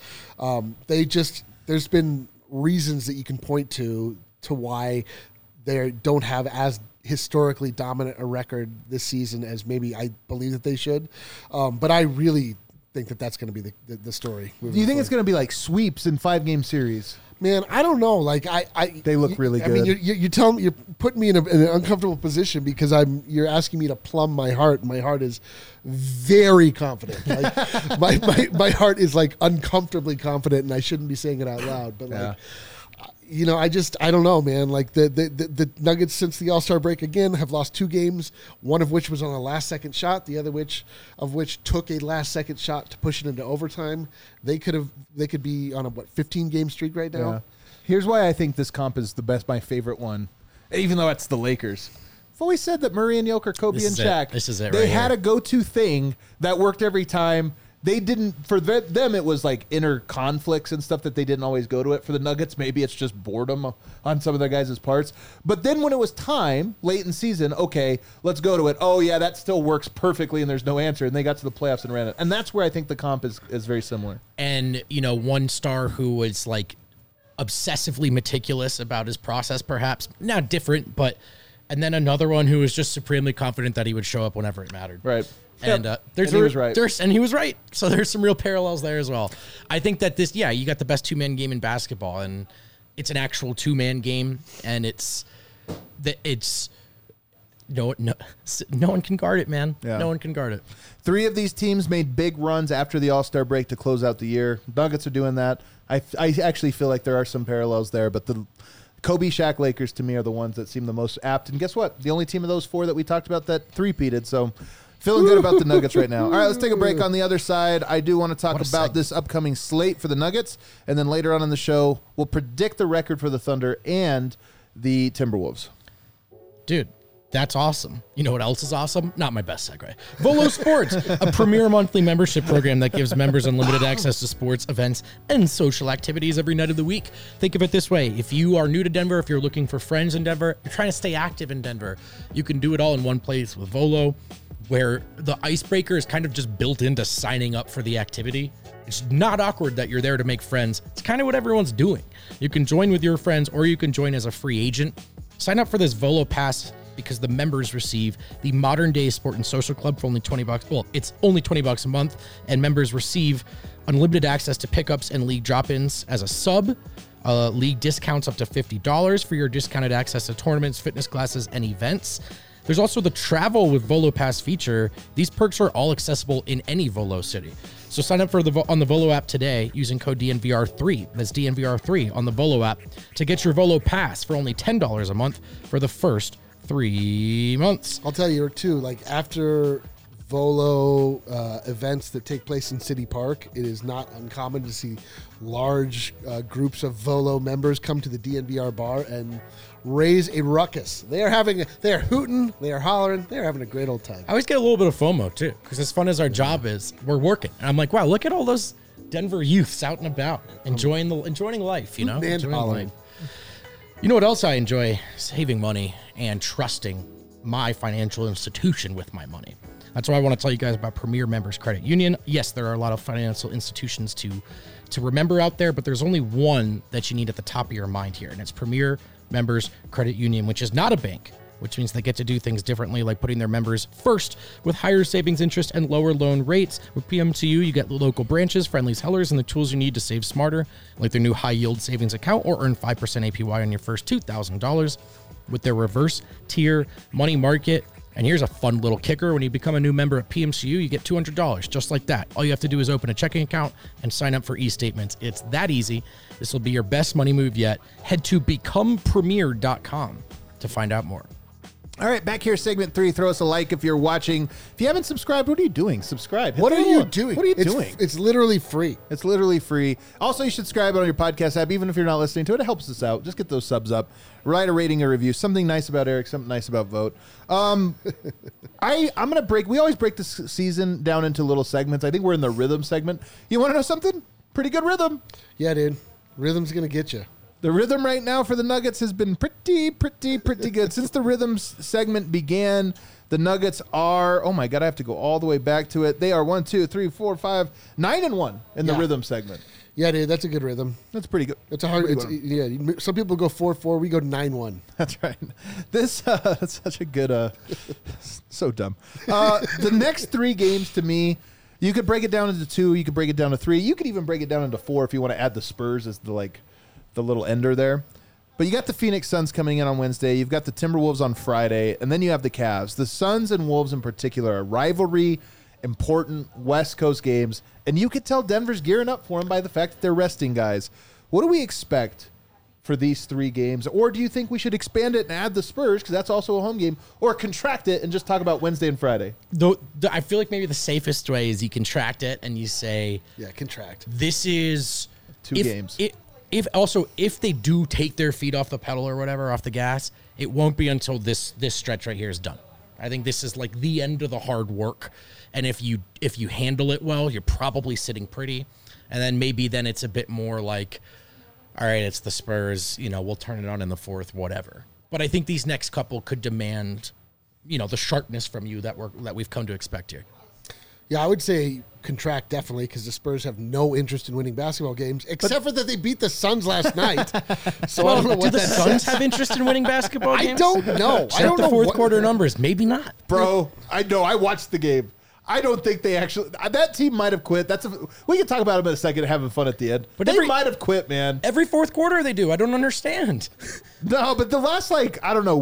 There's been reasons that you can point to why they don't have as historically dominant a record this season as maybe I believe that they should. But I really think that that's going to be the story. Do you think it's going to be like sweeps in 5-game series? Man, I don't know. Like they look really good. I mean, you're telling me, you're putting me in an uncomfortable position because you're asking me to plumb my heart. My heart is very confident. Like my heart is like uncomfortably confident, and I shouldn't be saying it out loud. But like, I don't know, man. Like the Nuggets since the All-Star break again have lost 2 games, one of which was on a last-second shot, the other of which took a last-second shot to push it into overtime. They could be on a 15-game streak right now. Yeah. Here's why I think this comp is my favorite one, even though it's the Lakers. I've always said that Murray and Jokic, Kobe and Shaq. This is it. They had a go-to thing that worked every time. They didn't, for them, it was like inner conflicts and stuff that they didn't always go to it. For the Nuggets, maybe it's just boredom on some of their guys' parts. But then when it was time, late in season, okay, let's go to it. Oh, yeah, that still works perfectly, and there's no answer. And they got to the playoffs and ran it. And that's where I think the comp is very similar. And, one star who was like obsessively meticulous about his process, perhaps. Now different, but, and then another one who was just supremely confident that he would show up whenever it mattered. Right. And he was right. And he was right. So there's some real parallels there as well. I think that you got the best 2-man game in basketball, and it's an actual 2-man game, and no one can guard it, man. Yeah. No one can guard it. 3 of these teams made big runs after the All-Star break to close out the year. Nuggets are doing that. I actually feel like there are some parallels there, but the Kobe, Shaq, Lakers to me are the ones that seem the most apt. And guess what? The only team of those 4 that we talked about that three-peated. So feeling good about the Nuggets right now. All right, let's take a break. On the other side, I do want to talk about this upcoming slate for the Nuggets. And then later on in the show, we'll predict the record for the Thunder and the Timberwolves. Dude, that's awesome. You know what else is awesome? Not my best segue. Volo Sports, a premier monthly membership program that gives members unlimited access to sports, events, and social activities every night of the week. Think of it this way. If you are new to Denver, if you're looking for friends in Denver, you're trying to stay active in Denver, you can do it all in one place with Volo, where the icebreaker is kind of just built into signing up for the activity. It's not awkward that you're there to make friends. It's kind of what everyone's doing. You can join with your friends, or you can join as a free agent. Sign up for this Volo Pass because the members receive the Modern Day Sport and Social Club for only $20. Well, it's only $20 a month, and members receive unlimited access to pickups and league drop-ins as a sub. League discounts up to $50 for your discounted access to tournaments, fitness classes, and events. There's also the Travel with Volo Pass feature. These perks are all accessible in any Volo city. So sign up on the Volo app today using code DNVR3. That's DNVR3 on the Volo app to get your Volo Pass for only $10 a month for the first 3 months. I'll tell you, too, like after Volo events that take place in City Park, it is not uncommon to see large groups of Volo members come to the DNVR bar and raise a ruckus. They are hooting, they are hollering, they are having a great old time. I always get a little bit of FOMO too, because as fun as our job is, we're working. And I'm like, wow, look at all those Denver youths out and about, enjoying life, you know? And hollering. You know what else I enjoy? Saving money and trusting my financial institution with my money. That's why I want to tell you guys about Premier Members Credit Union. Yes, there are a lot of financial institutions to remember out there, but there's only one that you need at the top of your mind here, and it's Premier Members Credit Union, which is not a bank, which means they get to do things differently, like putting their members first with higher savings interest and lower loan rates. With PMTU, you get local branches, friendly sellers, and the tools you need to save smarter, like their new high-yield savings account or earn 5% APY on your first $2,000. With their reverse tier money market And here's a fun little kicker. When you become a new member at PMCU, you get $200, just like that. All you have to do is open a checking account and sign up for e-statements. It's that easy. This will be your best money move yet. Head to becomepremier.com to find out more. All right, back here, segment 3. Throw us a like if you're watching. If you haven't subscribed, what are you doing? Subscribe. What are you doing? What are you doing? It's literally free. It's literally free. Also, you should subscribe on your podcast app, even if you're not listening to it. It helps us out. Just get those subs up. Write a rating or review. Something nice about Eric. Something nice about Vote. I'm going to break. We always break this season down into little segments. I think we're in the rhythm segment. You want to know something? Pretty good rhythm. Yeah, dude. Rhythm's going to get you. The rhythm right now for the Nuggets has been pretty good. Since the rhythm segment began, the Nuggets are, oh my God, I have to go all the way back to it. They are 1, 2, 3, 4, 5, 9-1 in the rhythm segment. Yeah, dude, that's a good rhythm. That's pretty good. It's a hard, some people go 4-4, we go 9-1. That's right. This, that's such a good, so dumb. The next 3 games to me, you could break it down into 2, you could break it down to 3, you could even break it down into 4 if you want to add the Spurs as the little ender there. But you got the Phoenix Suns coming in on Wednesday. You've got the Timberwolves on Friday. And then you have the Cavs. The Suns and Wolves in particular are rivalry, important West Coast games. And you could tell Denver's gearing up for them by the fact that they're resting guys. What do we expect for these 3 games? Or do you think we should expand it and add the Spurs, because that's also a home game, or contract it and just talk about Wednesday and Friday? I feel like maybe the safest way is you contract it and you say... Yeah, contract. This is... 2 games. If they do take their feet off the pedal or whatever, off the gas, it won't be until this stretch right here is done. I think this is like the end of the hard work. And if you handle it well, you're probably sitting pretty. And then maybe then it's a bit more like, all right, it's the Spurs, we'll turn it on in the 4th, whatever. But I think these next couple could demand, the sharpness from you that we've come to expect here. Yeah, I would say contract definitely, because the Spurs have no interest in winning basketball games, except for that they beat the Suns last night. So I don't know what do the Suns have interest in winning basketball games? I don't know. Check the fourth quarter numbers. Maybe not. Bro, I know. I watched the game. I don't think they actually... That team might have quit. We can talk about them in a second, having fun at the end. But they might have quit, man. Every fourth quarter they do. I don't understand. No, but the last, week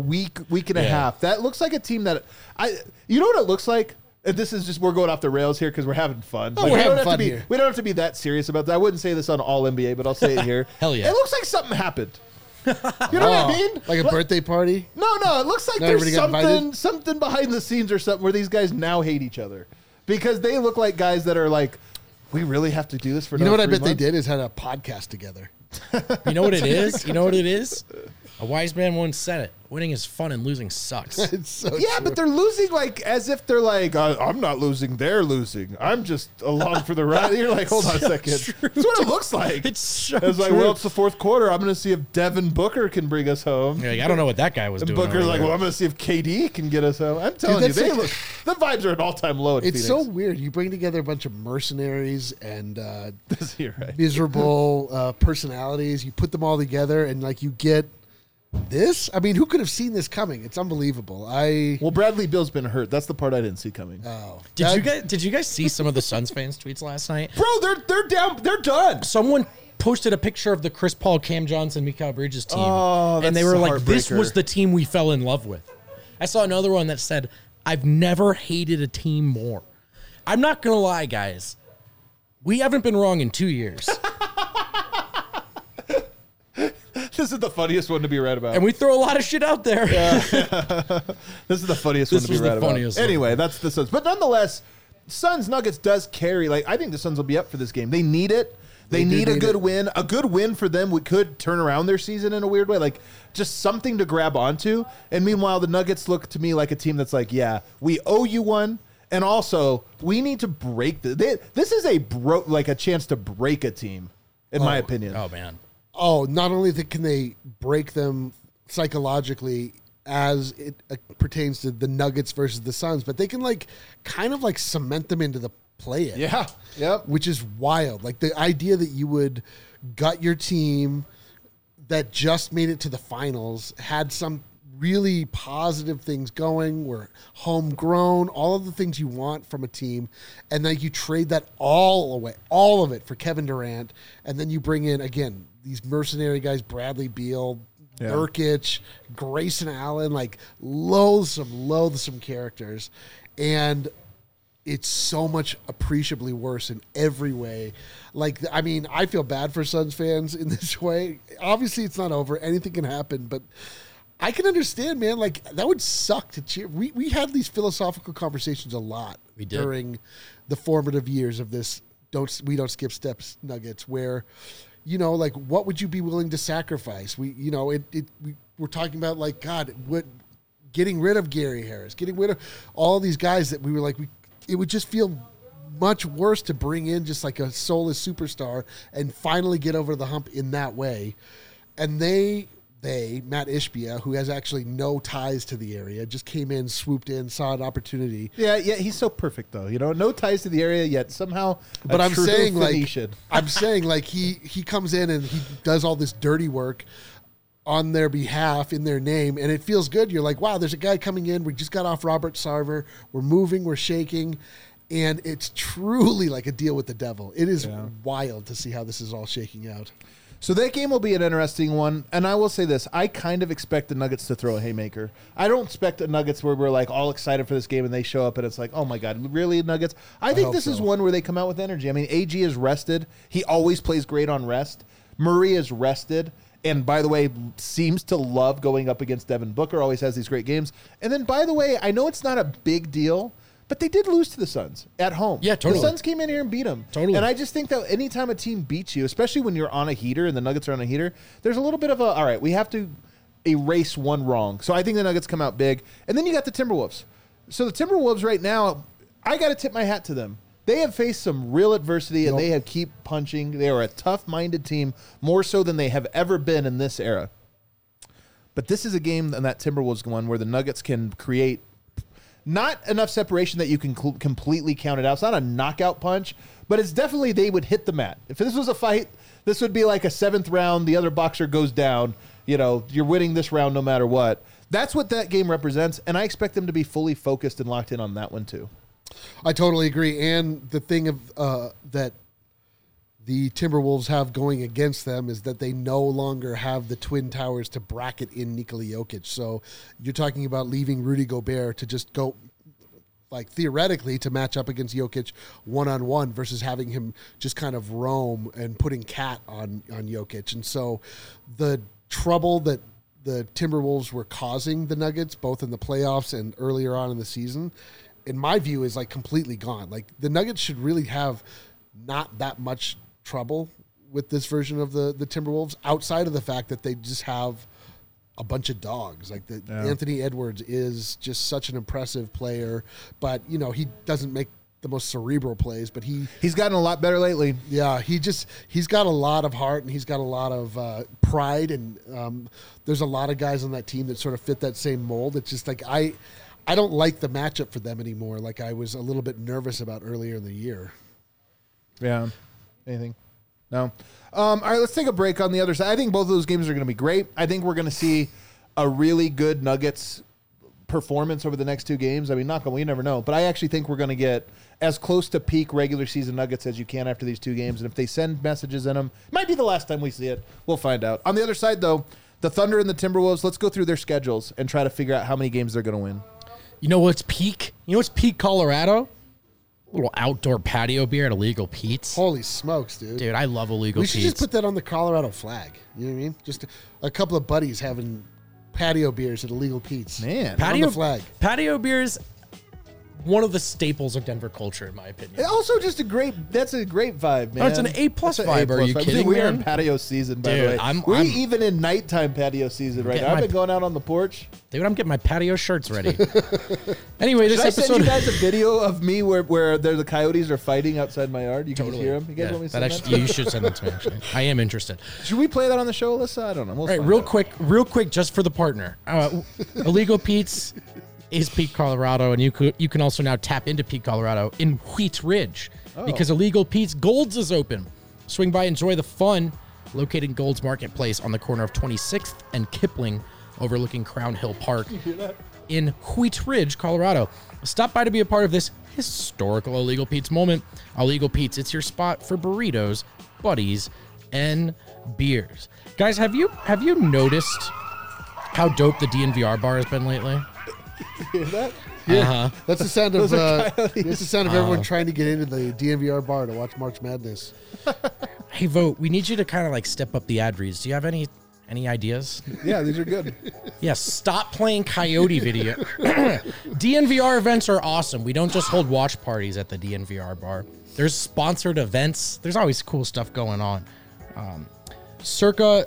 and a half, that looks like a team that... You know what it looks like? And this is just... We're going off the rails here because we're having fun. Oh, we're having fun here. We don't have to be that serious about that. I wouldn't say this on All NBA, but I'll say it here. Hell yeah. It looks like something happened. You know what I mean? Like a birthday party? No. It looks like there's something behind the scenes or something where these guys now hate each other. Because they look like guys that are like, we really have to do this for You know what I bet 3 months? they did is had a podcast together. You know what it is? You know what it is? A wise man once said it. Winning is fun and losing sucks. It's so Yeah, true. but they're losing as if they're like, I'm not losing, they're losing. I'm just along for the ride. You're like, hold on a second. That's what it looks like. It's so It's like, true. well, it's the 4th quarter. I'm going to see if Devin Booker can bring us home. You're like, I don't know what that guy was And doing. Booker's over like, there. well, I'm going to see if KD can get us home. I'm telling you, that's like- the vibes are at all-time low at It's Phoenix. so weird. You bring together a bunch of mercenaries and You're right. miserable personalities. You put them all together, and you get this. I mean, who could have seen this coming? It's unbelievable. Well, Bradley Beal's been hurt. That's the part I didn't see coming. Did you guys see some of the Suns fans' tweets last night? Bro, they're down. They're done. Someone posted a picture of the Chris Paul, Cam Johnson, Mikal Bridges team, Oh, and they that's were a like, "This heartbreaker. was the team we fell in love with." I saw another one that said, "I've never hated a team more." I'm not gonna lie, guys. We haven't been wrong in 2 years. This is the funniest one to be right about. And we throw a lot of shit out there. This is the funniest This one to was be the right about. funniest one. Anyway, that's the Suns. But nonetheless, Suns Nuggets does carry. I think the Suns will be up for this game. They need it. They need a good win. A good win for them could turn around their season in a weird way. Just something to grab onto. And meanwhile, the Nuggets look to me like a team that's like, yeah, we owe you one. And also, we need to break this is a chance to break a team, in my opinion. Oh man. Oh, not only can they break them psychologically as it pertains to the Nuggets versus the Suns, but they can kind of cement them into the play-in. Yeah. Yep. Which is wild. The idea that you would gut your team that just made it to the finals, had some really positive things going, were homegrown, all of the things you want from a team, and then you trade that all away, all of it for Kevin Durant, and then you bring in, again, these mercenary guys, Bradley Beal, Nurkic, Grayson Allen, like loathsome characters. And it's so much appreciably worse in every way. Like, I mean, I feel bad for Suns fans in this way. Obviously, it's not over. Anything can happen, but I can understand, man. Like, that would suck to cheer. We had these philosophical conversations a lot during the formative years of this we don't skip steps Nuggets, where, you know, like, what would you be willing to sacrifice? We're talking about, like, God, getting rid of Gary Harris, getting rid of all these guys that we were like, it would just feel much worse to bring in just like a soulless superstar and finally get over the hump in that way. And Matt Ishbia, who has actually no ties to the area, just came in, swooped in, saw an opportunity. Yeah, he's so perfect though. You know, no ties to the area yet somehow. But I'm saying like he comes in and he does all this dirty work on their behalf, in their name, and it feels good. You're like, wow, there's a guy coming in. We just got off Robert Sarver. We're moving, we're shaking, and it's truly like a deal with the devil. It is wild to see how this is all shaking out. So that game will be an interesting one, and I will say this. I kind of expect the Nuggets to throw a haymaker. I don't expect the Nuggets where we're like all excited for this game and they show up and it's like, oh my God, really, Nuggets? I think this is one where they come out with energy. I mean, AG is rested. He always plays great on rest. Murray is rested. And by the way, seems to love going up against Devin Booker, always has these great games. And then, by the way, I know it's not a big deal, but they did lose to the Suns at home. Yeah, totally. The Suns came in here and beat them. Totally. And I just think that anytime a team beats you, especially when you're on a heater and the Nuggets are on a heater, there's a little bit of all right, we have to erase one wrong. So I think the Nuggets come out big. And then you got the Timberwolves. So the Timberwolves right now, I got to tip my hat to them. They have faced some real adversity, and they have keep punching. They are a tough-minded team, more so than they have ever been in this era. But this is a game, and that Timberwolves one, where the Nuggets can create not enough separation that you can completely count it out. It's not a knockout punch, but it's definitely they would hit the mat. If this was a fight, this would be like a 7th round. The other boxer goes down. You know, you're winning this round no matter what. That's what that game represents, and I expect them to be fully focused and locked in on that one too. I totally agree. And the thing of that the Timberwolves have going against them is that they no longer have the Twin Towers to bracket in Nikola Jokic. So you're talking about leaving Rudy Gobert to just go, like, theoretically, to match up against Jokic one-on-one versus having him just kind of roam and putting Cat on Jokic. And so the trouble that the Timberwolves were causing the Nuggets, both in the playoffs and earlier on in the season, in my view, is like completely gone. Like, the Nuggets should really have not that much trouble with this version of the Timberwolves, outside of the fact that they just have a bunch of dogs. Like, Anthony Edwards is just such an impressive player, but you know, he doesn't make the most cerebral plays, but he's gotten a lot better lately. Yeah, he's got a lot of heart, and he's got a lot of pride, and there's a lot of guys on that team that sort of fit that same mold. It's just like I don't like the matchup for them anymore, like I was a little bit nervous about earlier in the year. Yeah. Anything? No. All right, let's take a break on the other side. I think both of those games are going to be great. I think we're going to see a really good Nuggets performance over the next two games. I mean, we never know. But I actually think we're going to get as close to peak regular season Nuggets as you can after these two games. And if they send messages in them, it might be the last time we see it. We'll find out. On the other side, though, the Thunder and the Timberwolves, let's go through their schedules and try to figure out how many games they're going to win. You know what's peak? You know what's peak Colorado? A little outdoor patio beer at Illegal Pete's. Holy smokes, dude. Dude, I love Illegal Pete's. We should just put that on the Colorado flag. You know what I mean? Just a couple of buddies having patio beers at Illegal Pete's. Man. On the flag. Patio beers, one of the staples of Denver culture, in my opinion. Also, just that's a great vibe, man. No, it's an A+ vibe. Are you kidding me? We are in patio season, by Dude, the way. We're even in nighttime patio season right now. I've been going out on the porch. Dude, I'm getting my patio shirts ready. Anyway, this Should episode. I send you guys a video of me where the coyotes are fighting outside my yard? You can just hear them. You guys want me to send that? You should send it to me, actually. I am interested. Should we play that on the show, Alyssa? I don't know. All right, real quick, just for the partner. Illegal Pete's is Peak Colorado, and you can also now tap into Peak Colorado in Wheat Ridge because Illegal Pete's Gold's is open. Swing by, enjoy the fun. Located in Gold's Marketplace on the corner of 26th and Kipling, overlooking Crown Hill Park in Wheat Ridge, Colorado. Stop by to be a part of this historical Illegal Pete's moment. Illegal Pete's, it's your spot for burritos, buddies, and beers. Guys, have you noticed how dope the DNVR bar has been lately? Hear that? Yeah, that's the sound of are that's the sound of everyone trying to get into the DNVR bar to watch March Madness. Hey, Vote, we need you to kind of like step up the ad reads. Do you have any ideas? Yeah, these are good. Yes, stop playing Coyote video. DNVR events are awesome. We don't just hold watch parties at the DNVR bar. There's sponsored events. There's always cool stuff going on. Circa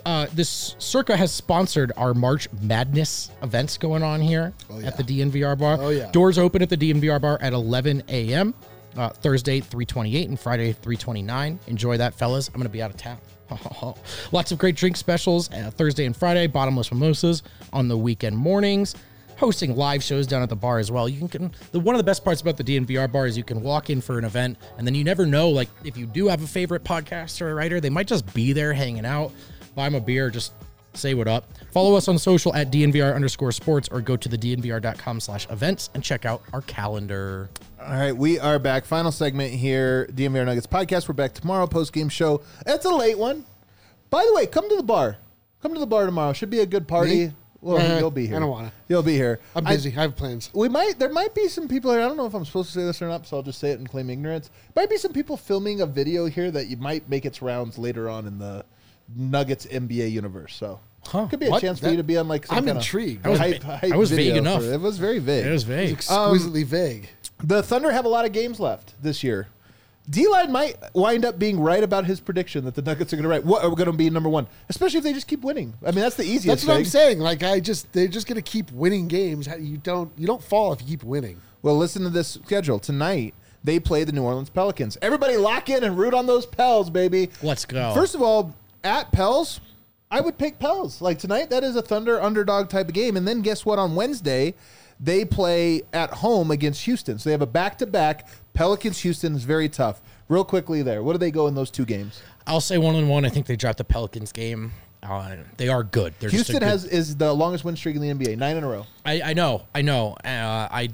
has sponsored our March Madness events going on here at the DNVR bar. Oh, yeah. Doors open at the DNVR bar at 11 a.m. Thursday, 3/28 and Friday, 3/29. Enjoy that, fellas. I'm going to be out of town. Lots of great drink specials Thursday and Friday, bottomless mimosas on the weekend mornings, hosting live shows down at the bar as well. One of the best parts about the DNVR bar is you can walk in for an event and then you never know, like if you do have a favorite podcaster or writer, they might just be there hanging out, buy them a beer, just say what up. Follow us on social at DNVR_sports or go to the DNVR.com/events and check out our calendar. All right, we are back. Final segment here, DNVR Nuggets podcast. We're back tomorrow, post-game show. It's a late one. By the way, come to the bar. Come to the bar tomorrow. Should be a good party. Me? Well, you'll be here. I don't want to. You'll be here. I'm busy. I have plans. There might be some people here. I don't know if I'm supposed to say this or not, so I'll just say it and claim ignorance. Might be some people filming a video here that you might make its rounds later on in the Nuggets NBA universe. So could be a chance for you to be on like some I'm kind of intrigued. I was vague enough. It was very vague. It was vague. Exquisitely vague. The Thunder have a lot of games left this year. D-Line might wind up being right about his prediction that the Nuggets are going to be number one, especially if they just keep winning. I mean, that's the easiest That's what thing. I'm saying. Like they're just going to keep winning games. You don't fall if you keep winning. Well, listen to this schedule. Tonight, they play the New Orleans Pelicans. Everybody lock in and root on those Pels, baby. Let's go. First of all, at Pels, I would pick Pels. Like tonight, that is a Thunder underdog type of game. And then guess what? On Wednesday, they play at home against Houston. So they have a back-to-back. Pelicans-Houston is very tough. Real quickly there, what do they go in those two games? I'll say 1-1. I think they dropped the Pelicans game. They are good. They're Houston is the longest win streak in the NBA, 9 in a row. I know. I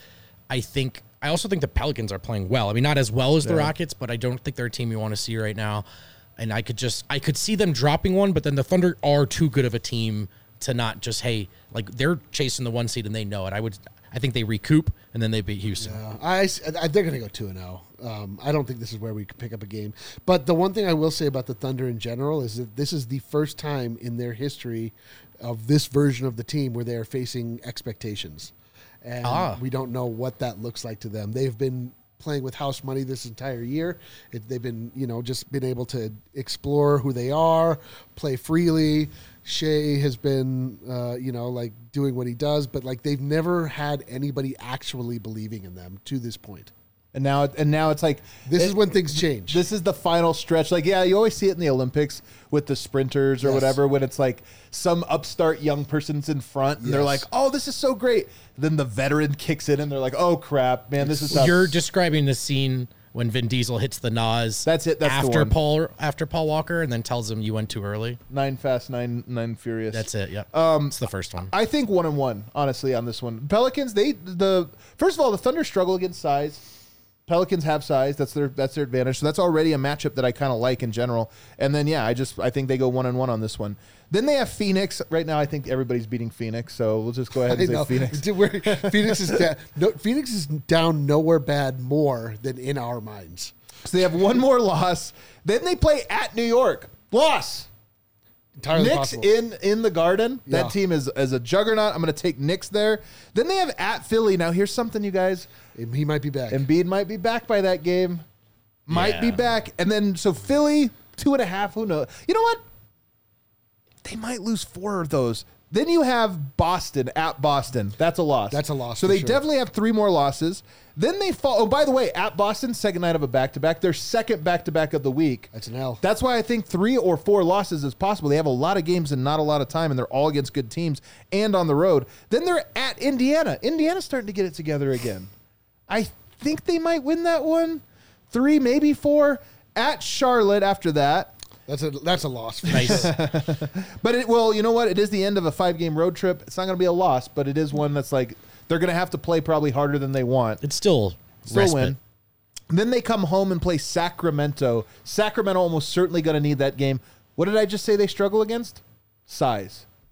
also think the Pelicans are playing well. I mean, not as well as the Rockets, but I don't think they're a team you want to see right now. And I could see them dropping one, but then the Thunder are too good of a team to not just, hey, like they're chasing the 1 seed and they know it. I think they recoup and then they beat Houston. Yeah, they're going to go 2-0. I don't think this is where we could pick up a game. But the one thing I will say about the Thunder in general is that this is the first time in their history of this version of the team where they are facing expectations. And we don't know what that looks like to them. They've been playing with house money this entire year. They've been, just been able to explore who they are, play freely. Shea has been, doing what he does, but like they've never had anybody actually believing in them to this point. And now it's like this is when things change. This is the final stretch. Like, yeah, you always see it in the Olympics with the sprinters or whatever, when it's like some upstart young person's in front and they're like, "Oh, this is so great." Then the veteran kicks in and they're like, "Oh crap, man, this is tough." You're describing the scene when Vin Diesel hits the Nas. That's it. That's the one. After Paul Walker, and then tells him you went too early. 9 Fast, 9 Furious. That's it. Yeah. It's the first one. I think 1-1. Honestly, on this one, Pelicans. First of all, the Thunder struggle against size. Pelicans have size. That's their advantage. So that's already a matchup that I kind of like in general. And then I think they go 1-1 on this one. Then they have Phoenix. Right now, I think everybody's beating Phoenix. So we'll just go ahead and say Phoenix. Phoenix is down. Phoenix is down nowhere bad more than in our minds. So they have one more loss. Then they play at New York. Loss. Entirely Knicks possible. in the Garden. Yeah. That team is a juggernaut. I'm going to take Knicks there. Then they have at Philly. Now here's something, you guys. He might be back. Embiid might be back by that game. Might be back. And then so Philly 2.5. Who knows? You know what? They might lose 4 of those. Then you have Boston at Boston. That's a loss. That's a loss. So they definitely have 3 more losses. Then they fall. Oh, by the way, at Boston, second night of a back-to-back. Their second back-to-back of the week. That's an L. That's why I think 3 or 4 losses is possible. They have a lot of games and not a lot of time, and they're all against good teams and on the road. Then they're at Indiana. Indiana's starting to get it together again. I think they might win that one. 3, maybe 4. At Charlotte after that. That's a loss. Nice. But you know what? It is the end of a 5-game road trip. It's not going to be a loss, but it is one that's like they're going to have to play probably harder than they want. It's still win. And then they come home and play Sacramento. Sacramento almost certainly going to need that game. What did I just say they struggle against? Size.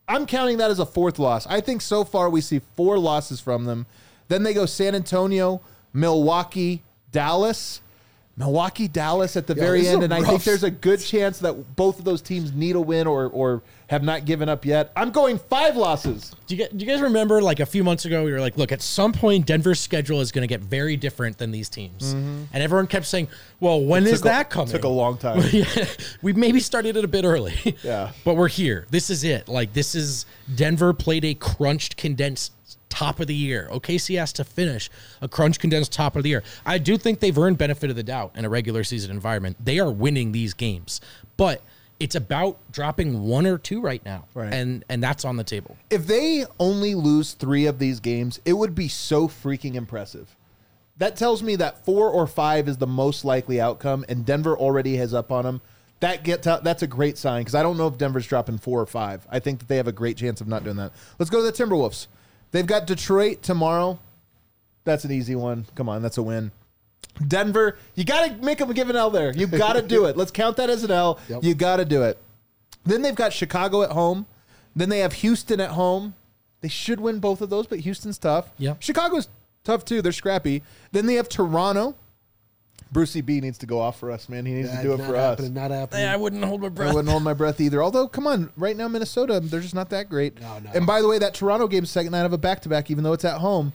I'm counting that as a fourth loss. I think so far we see 4 losses from them. Then they go San Antonio, Milwaukee, Dallas. Milwaukee, Dallas at the very end, and I think there's a good chance that both of those teams need a win or have not given up yet. I'm going 5 losses. Do you guys remember, like, a few months ago, we were like, look, at some point, Denver's schedule is going to get very different than these teams. And everyone kept saying, well, when is that coming? Took a long time. We maybe started it a bit early. Yeah. But we're here. This is it. Like, this is Denver played a crunched, condensed top of the year. OKC has to finish a crunch condensed top of the year. I do think they've earned benefit of the doubt in a regular season environment. They are winning these games, but it's about dropping 1 or 2 right now. Right. And that's on the table. If they only lose 3 of these games, it would be so freaking impressive. That tells me that 4 or 5 is the most likely outcome, and Denver already has up on them. That's a great sign, because I don't know if Denver's dropping 4 or 5. I think that they have a great chance of not doing that. Let's go to the Timberwolves. They've got Detroit tomorrow. That's an easy one. Come on, that's a win. Denver, you got to make them give an L there. You got to do it. Let's count that as an L. Yep. You got to do it. Then they've got Chicago at home. Then they have Houston at home. They should win both of those, but Houston's tough. Yeah. Chicago's tough too. They're scrappy. Then they have Toronto. Brucey B needs to go off for us, man. He needs to do it for us. Not happening. I wouldn't hold my breath. I wouldn't hold my breath either. Although, come on, right now Minnesota, they're just not that great. No. And by the way, that Toronto game's second night of a back-to-back, even though it's at home.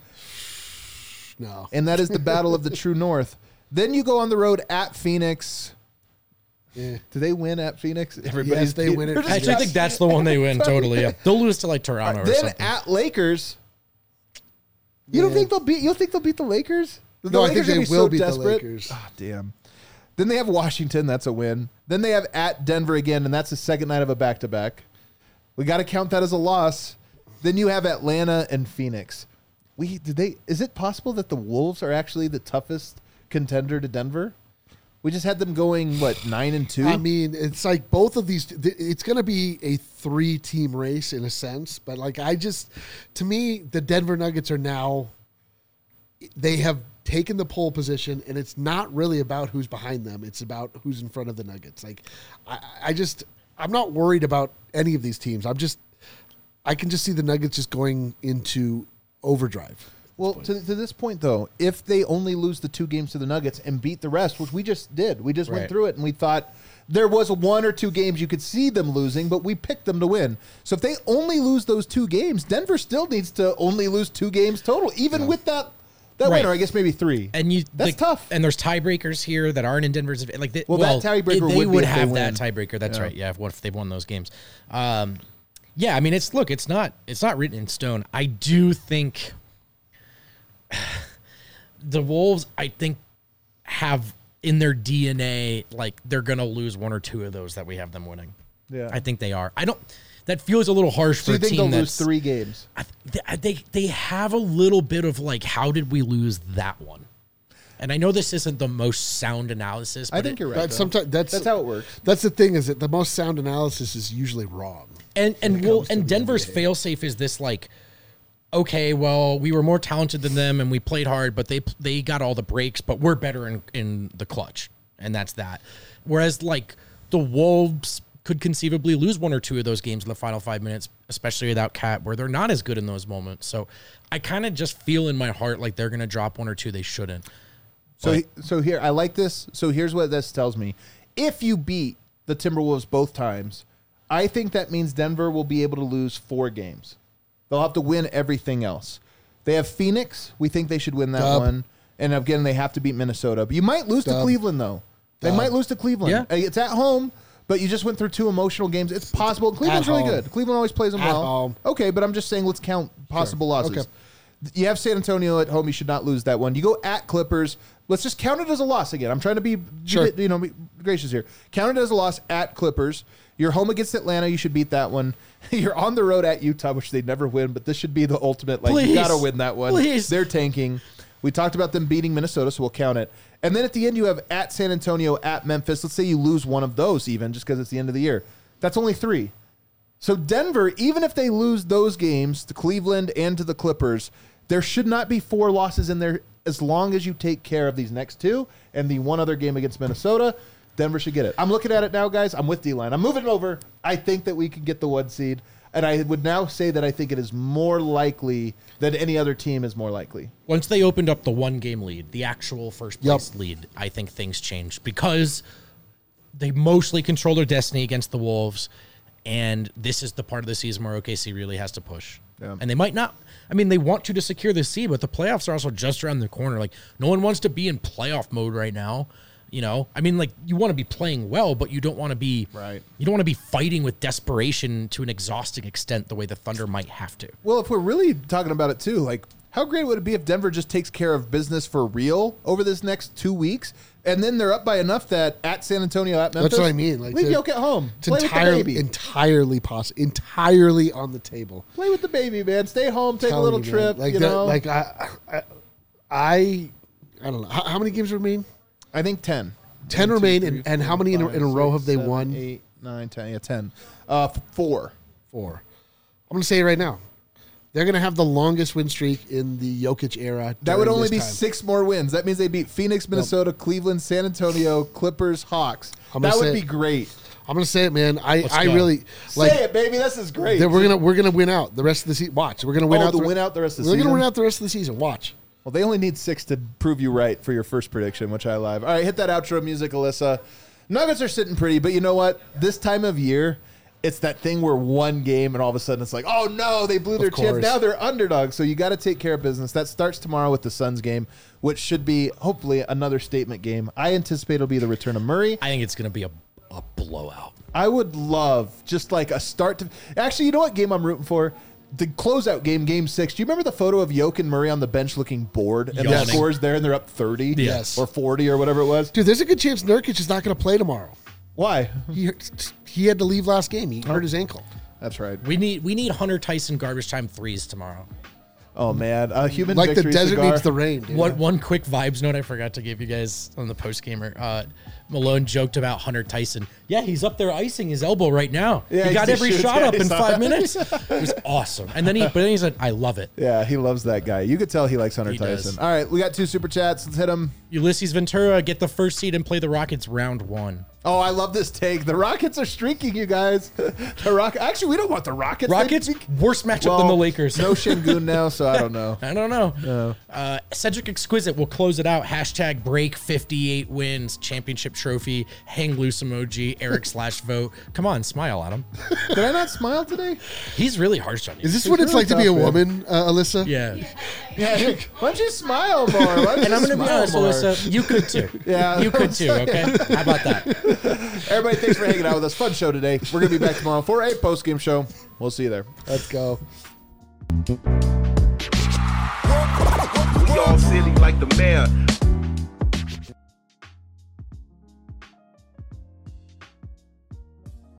No. And that is the battle of the true north. Then you go on the road at Phoenix. Yeah. Do they win at Phoenix? Yes, they win it. I actually think that's the one they win, totally. Yeah. They'll lose to, like, Toronto or then something. at Lakers. You don't think they'll beat? You think they'll beat the Lakers? No, I think they will beat the Lakers. Oh, damn. Then they have Washington. That's a win. Then they have at Denver again, and that's the second night of a back-to-back. We got to count that as a loss. Then you have Atlanta and Phoenix. Is it possible that the Wolves are actually the toughest contender to Denver? We just had them going, 9-2? I mean, it's like both of these. It's going to be a 3-team race in a sense, but to me, the Denver Nuggets are now. They have taken the pole position, and it's not really about who's behind them. It's about who's in front of the Nuggets. Like, I'm not worried about any of these teams. I can just see the Nuggets just going into overdrive. Well, to this point, though, if they only lose the 2 games to the Nuggets and beat the rest, which we just did, we just went through it, and we thought there was 1 or 2 games you could see them losing, but we picked them to win. So if they only lose those 2 games, Denver still needs to only lose 2 games total, even with that win, or I guess maybe 3. And that's tough. And there's tiebreakers here that aren't in Denver's. That tiebreaker they would be have they that tiebreaker. That's right. Yeah. What if they've won those games? Yeah. I mean, it's not written in stone. I do think the Wolves, I think, have in their DNA, like, they're going to lose 1 or 2 of those that we have them winning. Yeah. I think they are. That feels a little harsh for a team. So you think they'll lose 3 games? They have a little bit of, like, how did we lose that one? And I know this isn't the most sound analysis. But I think you're right. That's how it works. That's the thing, is that the most sound analysis is usually wrong. And Denver's failsafe is this, like, okay, well, we were more talented than them and we played hard, but they got all the breaks, but we're better in the clutch, and that's that. Whereas, like, the Wolves could conceivably lose 1 or 2 of those games in the final 5 minutes, especially without Cat, where they're not as good in those moments. So I kind of just feel in my heart like they're going to drop 1 or 2 they shouldn't. So here, I like this. So here's what this tells me. If you beat the Timberwolves both times, I think that means Denver will be able to lose 4 games. They'll have to win everything else. They have Phoenix. We think they should win that one. And again, they have to beat Minnesota. But you might lose to Cleveland, though. They might lose to Cleveland. Yeah. It's at home, but you just went through 2 emotional games. It's possible. Cleveland's really good. Cleveland always plays them well. Home. Okay, but I'm just saying let's count possible losses. Okay. You have San Antonio at home. You should not lose that one. You go at Clippers. Let's just count it as a loss again. I'm trying to be gracious here. Count it as a loss at Clippers. You're home against Atlanta. You should beat that one. You're on the road at Utah, which they never win, but this should be the ultimate. Like, you got to win that one. Please. They're tanking. We talked about them beating Minnesota, so we'll count it. And then at the end, you have at San Antonio, at Memphis. Let's say you lose one of those even, just because it's the end of the year. That's only 3. So Denver, even if they lose those games to Cleveland and to the Clippers, there should not be 4 losses in there as long as you take care of these next 2 and the one other game against Minnesota. Denver should get it. I'm looking at it now, guys. I'm with D-Line. I'm moving over. I think that we could get the 1 seed. And I would now say that I think it is more likely that any other team is more likely. Once they opened up the 1-game lead, the actual first place lead, I think things changed because they mostly control their destiny against the Wolves. And this is the part of the season where OKC really has to push. Yeah. And they might not. I mean, they want to secure the seed, but the playoffs are also just around the corner. Like, no one wants to be in playoff mode right now. You know, I mean, like, you want to be playing well, but you don't want to be You don't want to be fighting with desperation to an exhausting extent the way the Thunder might have to. Well, if we're really talking about it too, like, how great would it be if Denver just takes care of business for real over this next 2 weeks, and then they're up by enough that at San Antonio, at Memphis, that's what I mean. Like, leave Jokic at home. It's Play with the baby. entirely possible, entirely on the table. Play with the baby, man. Stay home, take a little trip. Like you know, like I don't know how many games remain. I think 10. 10 remain, and how many in a row have they won? 8, 9, 10. Yeah, 10. 4. 4. I'm going to say it right now. They're going to have the longest win streak in the Jokic era. That would only be 6 more wins. That means they beat Phoenix, Minnesota, Cleveland, San Antonio, Clippers, Hawks. That would be great. I'm going to say it, man. I really like it, baby. This is great. We're gonna win out the rest of the season. Watch, we're gonna win out. Win out the rest of the season. We're gonna win out the rest of the season. Watch. Well, they only need 6 to prove you right for your first prediction, which I love. All right, hit that outro music, Alyssa. Nuggets are sitting pretty, but you know what? This time of year, it's that thing where one game and all of a sudden it's like, oh no, they blew their chance. Now they're underdogs, so you got to take care of business. That starts tomorrow with the Suns game, which should be hopefully another statement game. I anticipate it'll be the return of Murray. I think it's going to be a blowout. I would love just like a start to... Actually, you know what game I'm rooting for? The closeout game, Game 6. Do you remember the photo of Jokic and Murray on the bench looking bored? And the score's there and they're up 30 or 40 or whatever it was? Dude, there's a good chance Nurkic is not going to play tomorrow. Why? He had to leave last game. He hurt his ankle. That's right. We need Hunter Tyson garbage time threes tomorrow. Oh, man. Human like victory the desert cigar. needs the rain. Dude. One quick vibes note I forgot to give you guys on the post-gamer. Malone joked about Hunter Tyson. Yeah, he's up there icing his elbow right now. Yeah, he got every shot up in 5 minutes. It was awesome. And then he said, I love it. Yeah, he loves that guy. You could tell he likes Hunter Tyson. All right, we got 2 super chats. Let's hit them. Ulysses Ventura, get the first seed and play the Rockets round 1. Oh, I love this take. The Rockets are streaking, you guys. Actually, we don't want the Rockets. Worse matchup than the Lakers. No Şengün now, so I don't know. I don't know. No. Cedric Exquisite will close it out. Hashtag break 58 wins. Championship trophy. Hang loose emoji. Eric/vote. Come on, smile at him. Did I not smile today? He's really harsh on you. Is this what it's like to be a woman, Alyssa? Yeah. Yeah. Why don't you smile more? And I'm going to be honest, Alyssa, you could too. Yeah. You could too, okay? How about that? Everybody, thanks for hanging out with us. Fun show today. We're going to be back tomorrow for a post-game show. We'll see you there. Let's go. We all silly like the mayor.